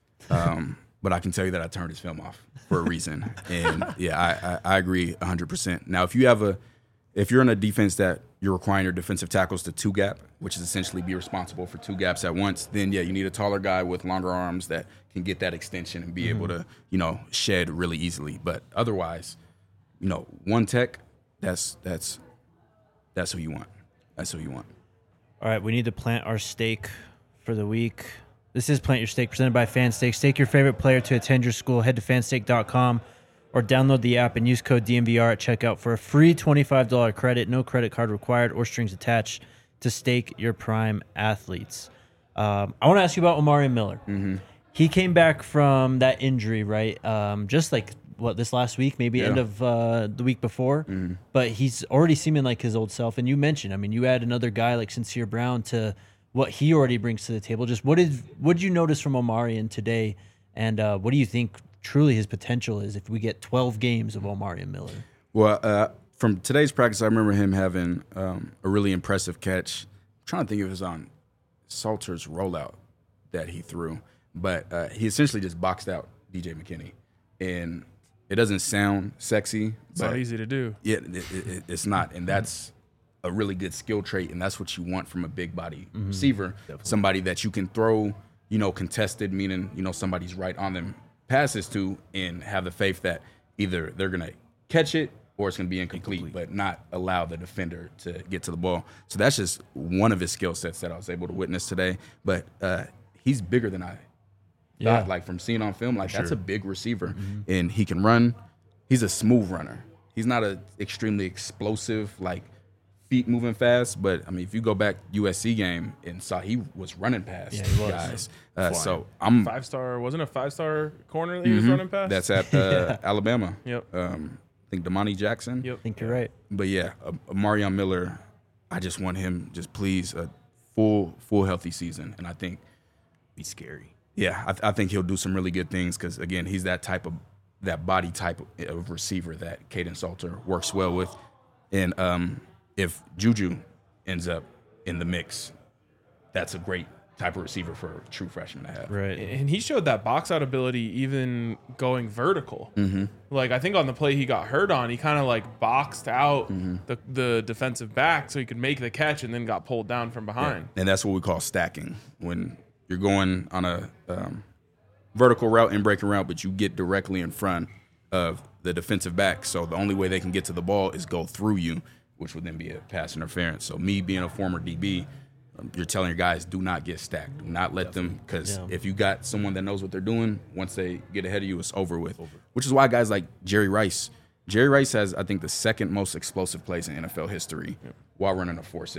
Um, but I can tell you that I turned his film off for a reason. And yeah, I, I, I agree one hundred percent. Now, if you have a, if you're in a defense that you're requiring your defensive tackles to two gap, which is essentially be responsible for two gaps at once, then yeah, you need a taller guy with longer arms that can get that extension and be able to, you know, shed really easily. But otherwise, you know, one tech, that's that's that's who you want. That's who you want. All right, we need to plant our stake for the week. This is Plant Your Stake, presented by FanStake. Stake your favorite player to attend your school. Head to fanstake dot com or download the app and use code D M V R at checkout for a free twenty-five dollars credit. No credit card required or strings attached to stake your prime athletes. Um, I want to ask you about Omari Miller. Mm-hmm. He came back from that injury, right? Um, just like, what, this last week, maybe Yeah. end of uh, the week before. Mm-hmm. But he's already seeming like his old self. And you mentioned, I mean, you add another guy like Sincere Brown to what he already brings to the table. Just what did what did you notice from Omarion today? And uh, what do you think truly his potential is if we get twelve games of Omarion Miller? Well, uh, from today's practice, I remember him having um, a really impressive catch. I'm trying to think if it was on Salter's rollout that he threw, but uh, he essentially just boxed out D J McKinney, and it doesn't sound sexy. It's but not easy to do. Yeah, it, it, it's not, and that's a really good skill trait, and that's what you want from a big body Mm-hmm. receiver, somebody that you can throw, you know, contested, meaning you know somebody's right on them passes to, and have the faith that either they're gonna catch it or it's gonna be incomplete, Incomplete. but not allow the defender to get to the ball. So that's just one of his skill sets that I was able to witness today. But uh, he's bigger than I Yeah. thought. Like from seeing on film, like that's sure. a big receiver, and he can run. He's a smooth runner. He's not a extremely explosive, like feet moving fast. But I mean, if you go back U S C game and saw he was running past Yeah, he was. guys. Uh, so I'm Five star wasn't a five star corner that he was running past. that's at uh, Alabama. Yep. Um, I think Damani Jackson. Yep. I think you're right. But yeah, uh, Marion Miller, I just want him just please a full full healthy season, and I think Be scary. yeah, I, I think he'll do some really good things because again, he's that type of that body type of, of receiver that Caden Salter works well with, and um, if Juju ends up in the mix, that's a great type of receiver for a true freshman to have. Right. And he showed that box out ability even going vertical. Mm-hmm. Like I think on the play he got hurt on, he kind of like boxed out Mm-hmm. the, the defensive back so he could make the catch and then got pulled down from behind. And that's what we call stacking. When you're going on a um, vertical route and breaking route, but you get directly in front of the defensive back. So the only way they can get to the ball is go through you, which would then be a pass interference. So me being a former D B, um, you're telling your guys, do not get stacked. Do not let them, because Yeah. if you got someone that knows what they're doing, once they get ahead of you, it's over with. Which is why guys like Jerry Rice, Jerry Rice has, I think, the second most explosive plays in N F L history while running a four six.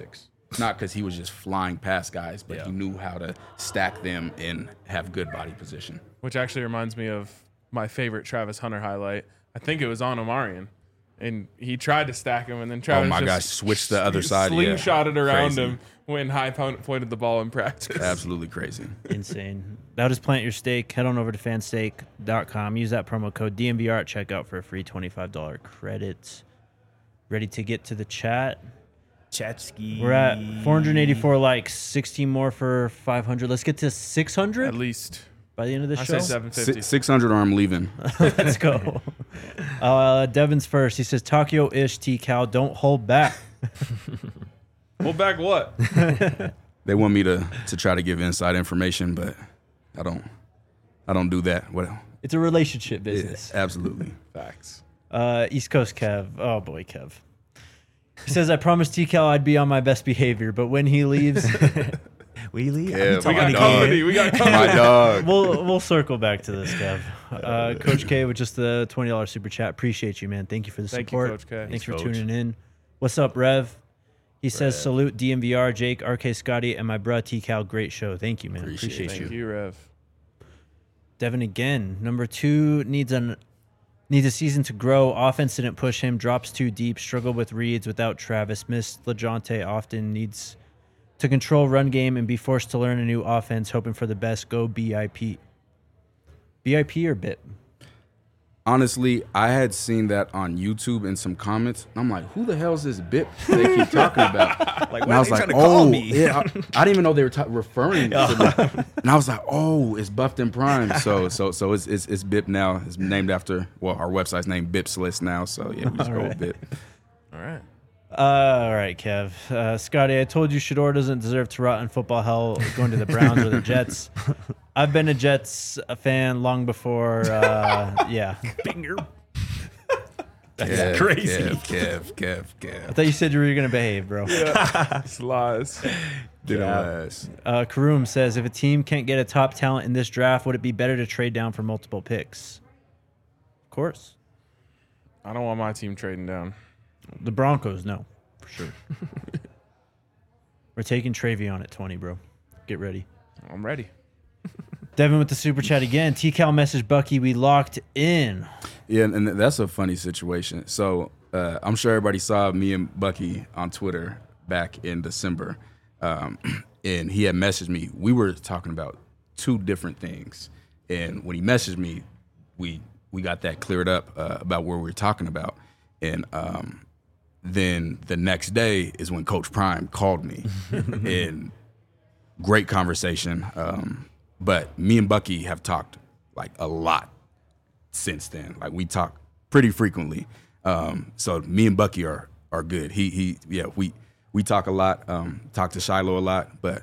Not because he was just flying past guys, but Yeah. he knew how to stack them and have good body position. Which actually reminds me of my favorite Travis Hunter highlight. I think it was on Omarion. And he tried to stack him, and then Travis Oh my just gosh, switched the other side, yeah. slingshotted around Crazy. him when High po- pointed the ball in practice. Absolutely crazy. Insane. That was Plant Your Steak. Head on over to fansteak dot com. Use that promo code D M V R at checkout for a free twenty-five dollars credit. Ready to get to the chat? Chatski. We're at four hundred eighty-four likes, sixteen more for five hundred. Let's get to six hundred At least. by the end of the I show. say seven fifty. six hundred or I'm leaving. Let's go. Uh, Devin's first. He says, Takio-ish, T-Cal, don't hold back. Hold back what? They want me to to try to give inside information, but I don't I don't do that. What? It's a relationship Yeah, business. absolutely. Facts. Uh, East Coast Kev. Oh, boy, Kev. He says, I promised T-Cal I'd be on my best behavior, but when he leaves, We leave. Yeah, We got my company. dog. We got My company. dog. we'll we'll circle back to this, Kev. Uh, Coach K with just the twenty dollars super chat. Appreciate you, man. Thank you for the Thank you, support. Coach K. Thanks Thanks, for Coach. tuning in. What's up, Rev? He says, salute D M V R, Jake, R K Scotty, and my bruh T-Cal. Great show. Thank you, man. Appreciate Appreciate, it. you. Thank you, Rev. Devin again. Number two needs an needs a season to grow. Offense didn't push him. Drops too deep. Struggled with reads without Travis. Missed LeJounte often. Needs to control run game and be forced to learn a new offense. Hoping for the best. Go B I P. B I P or B I P? Honestly, I had seen that on YouTube in some comments. And I'm like, who the hell is this B I P they keep talking about? Like, And why I are was they like, trying to call oh, me? yeah. I, I didn't even know they were ta- referring to that. And I was like, oh, it's Buffed and Prime. So, so, so it's it's, it's B I P now. It's named after, well, our website's named B I Ps List now. So yeah, we just go with B I P. All right. Uh, all right, Kev. Uh, Scotty, I told you Shador doesn't deserve to rot in football hell going to the Browns or the Jets. I've been a Jets fan long before. Uh, yeah. Finger. Kev, crazy. Kev, Kev, Kev, I Kev. thought you said you were going to behave, bro. It's lies. Didn't Yeah. last. Uh, Karoom says, if a team can't get a top talent in this draft, would it be better to trade down for multiple picks? Of course. I don't want my team trading down. The Broncos, no, for sure. We're taking Travion at twenty, bro. Get ready. I'm ready. Devin with the super chat again. T-Cal message Bucky, we locked in. Yeah, and that's a funny situation. So uh, I'm sure everybody saw me and Bucky on Twitter back in December, um, and he had messaged me. We were talking about two different things, and when he messaged me, we we got that cleared up uh, about where we were talking about, and um, then the next day is when Coach Prime called me, and great conversation. Um, but me and Bucky have talked like a lot since then. Like we talk pretty frequently. Um, so me and Bucky are are good. He he yeah, we we talk a lot, um, talk to Shiloh a lot, but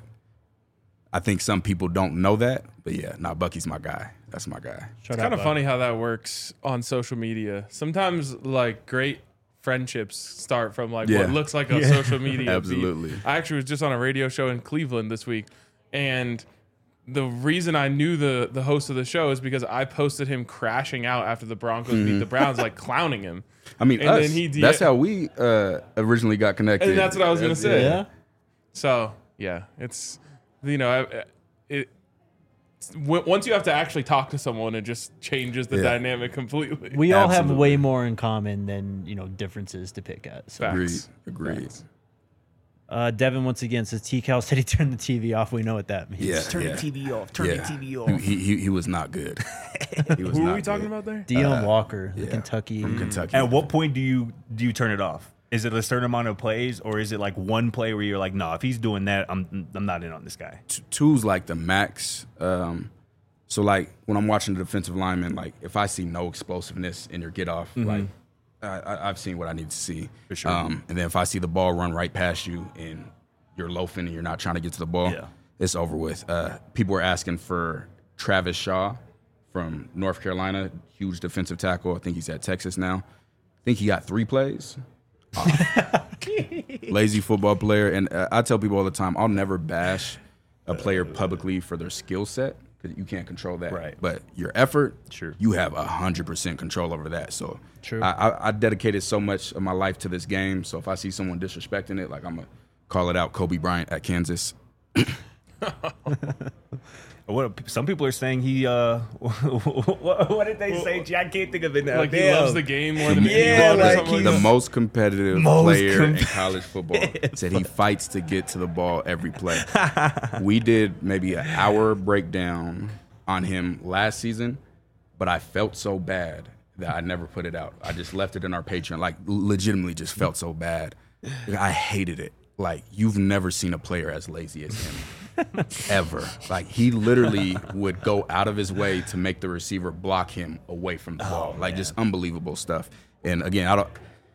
I think some people don't know that. But yeah, nah, Bucky's my guy. That's my guy. Shut It's up, kind of Buck. funny how that works on social media. Sometimes like great friendships start from like Yeah. what looks like a social media beef. Absolutely. I actually was just on a radio show in Cleveland this week, and the reason I knew the the host of the show is because I posted him crashing out after the Broncos beat the Browns, like clowning him. I mean, And us, then he de- that's how we uh, originally got connected. And that's what I was gonna say. Yeah? So yeah, it's you know I- it. w- Once you have to actually talk to someone, it just changes the Yeah. dynamic completely. We all have Absolutely. way more in common than, you know, differences to pick at. So. Fact. Agreed. Facts. Agreed. Facts. Uh, Devin once again says T-Cal said he turned the T V off. We know what that means. Yeah. Turn yeah. the T V off. Turn yeah. the T V off. He, he he was not good. He was Who are not we talking good. about there? Dion Walker, the yeah. Kentucky. From Kentucky. At what point do you do you turn it off? Is it a certain amount of plays, or is it like one play where you're like, no, if he's doing that, I'm I'm not in on this guy. T- two's like the max. Um, so like when I'm watching the defensive lineman, like if I see no explosiveness in your get off, like I, I, I've seen what I need to see. For sure. Um, and then if I see the ball run right past you and you're loafing and you're not trying to get to the ball, Yeah. it's over with. Uh, people were asking for Travis Shaw from North Carolina, huge defensive tackle. I think he's at Texas now. I think he got three plays. Lazy football player. And uh, I tell people all the time, I'll never bash a player publicly for their skill set because you can't control that. Right. But your effort, Sure. you have one hundred percent control over that. So True. I, I, I dedicated so much of my life to this game. So if I see someone disrespecting it, like I'm going to call it out, Kobe Bryant at Kansas. What some people are saying he uh what, what did they say? Gee, I can't think of it now. Like he Damn. loves the game more than Yeah, anyone or like something like The that. most competitive Most player in com- college football said he fights to get to the ball every play. We did maybe an hour breakdown on him last season, but I felt so bad that I never put it out. I just left it in our Patreon. Like legitimately just felt so bad. I hated it. Like you've never seen a player as lazy as him. Ever. Like he literally would go out of his way to make the receiver block him away from the ball. Oh, like man. just unbelievable stuff. And again, I don't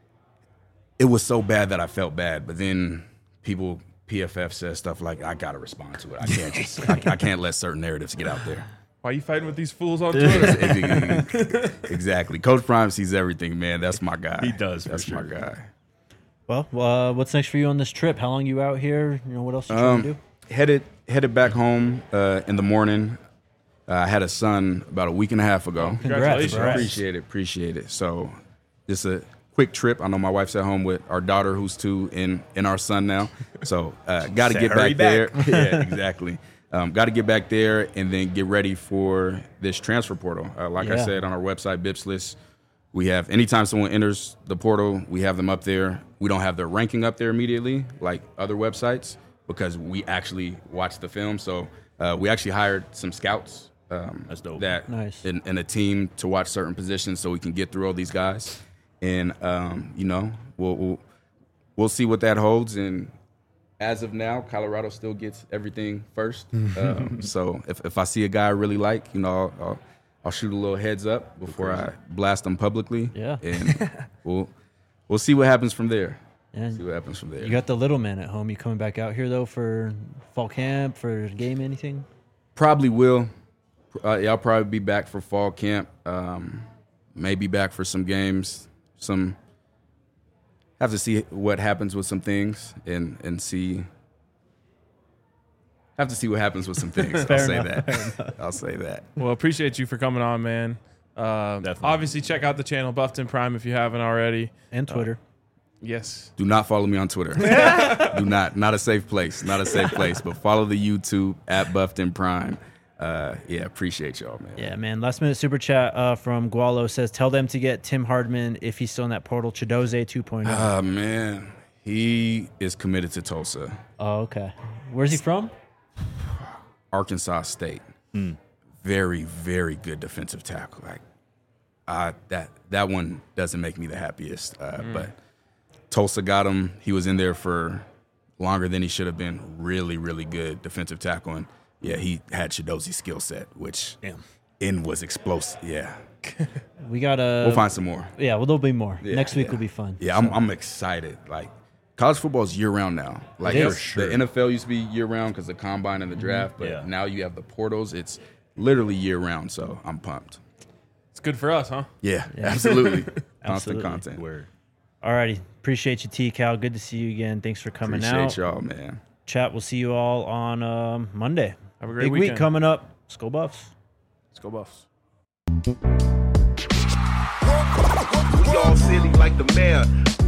it was so bad that I felt bad, but then people P F F says stuff like I gotta respond to it. I can't just I, I can't let certain narratives get out there. Why are you fighting with these fools on Twitter? Exactly. Coach Prime sees everything, man. That's my guy. He does, for That's sure. my guy. Well, uh, what's next for you on this trip? How long you out here? You know, what else you trying to do? Um, headed headed back home uh, in the morning. Uh, I had a son about a week and a half ago. Congratulations. Congrats. Appreciate it, appreciate it. So, just a quick trip. I know my wife's at home with our daughter, who's two, and and our son now. So, uh, got to Say get hurry back, back. there. Yeah, exactly. Um, got to get back there and then get ready for this transfer portal. Uh, like I Yeah. said on our website, Bips List, we have anytime someone enters the portal, we have them up there. We don't have their ranking up there immediately like other websites because we actually watch the film. So uh, we actually hired some scouts. Um, That's dope. That Nice. and, and a team to watch certain positions so we can get through all these guys. And um, you know, we'll, we'll we'll see what that holds. And as of now, Colorado still gets everything first. um, so if, if I see a guy I really like, you know, I'll, I'll, I'll shoot a little heads up before I blast them publicly. Yeah. And we'll we'll see what happens from there. And See what happens from there. you got the little man at home. You coming back out here though for fall camp, for a game, anything? Probably will. Uh, yeah, I'll probably be back for fall camp. Um, maybe back for some games. Some have to see what happens with some things and and see. Have to see what happens with some things. I'll Fair say enough, that. I'll say that. Well, appreciate you for coming on, man. Uh, Definitely. obviously, check out the channel Buffton Prime if you haven't already. And Twitter. Yes. Do not follow me on Twitter. Do not. Not a safe place. Not a safe place. But follow the YouTube at Buffton Prime. Uh, yeah, appreciate y'all, man. Yeah, man. Last minute super chat uh, from Gualo says, tell them to get Tim Hardman if he's still in that portal. Chidoze two point oh. Ah, man. He is committed to Tulsa. Oh, okay. Where's he from? Arkansas State. Very, very good defensive tackle. Like, uh, that that one doesn't make me the happiest. Uh, But Tulsa got him. He was in there for longer than he should have been. Really, really good defensive tackle. And yeah, he had Chidoze's skill set, which Damn. in was explosive. Yeah, We got a. we'll find some more. Yeah, well, there'll be more. Yeah, Next week yeah. will be fun. Yeah, I'm, I'm excited. Like, college football is year round now. Like, It the- is. the N F L used to be year round because the combine and the draft, but Yeah. now you have the portals. It's literally year round, so I'm pumped. It's good for us, huh? Yeah, absolutely. Constant Absolutely. content. Word. Alrighty. Appreciate you, T Cal. Good to see you again. Thanks for coming Appreciate out. y'all, man. Chat. We'll see you all on um, Monday. Have a great Big week weekend. coming up. Let's go Buffs. Let's go Buffs. We all silly like the mayor.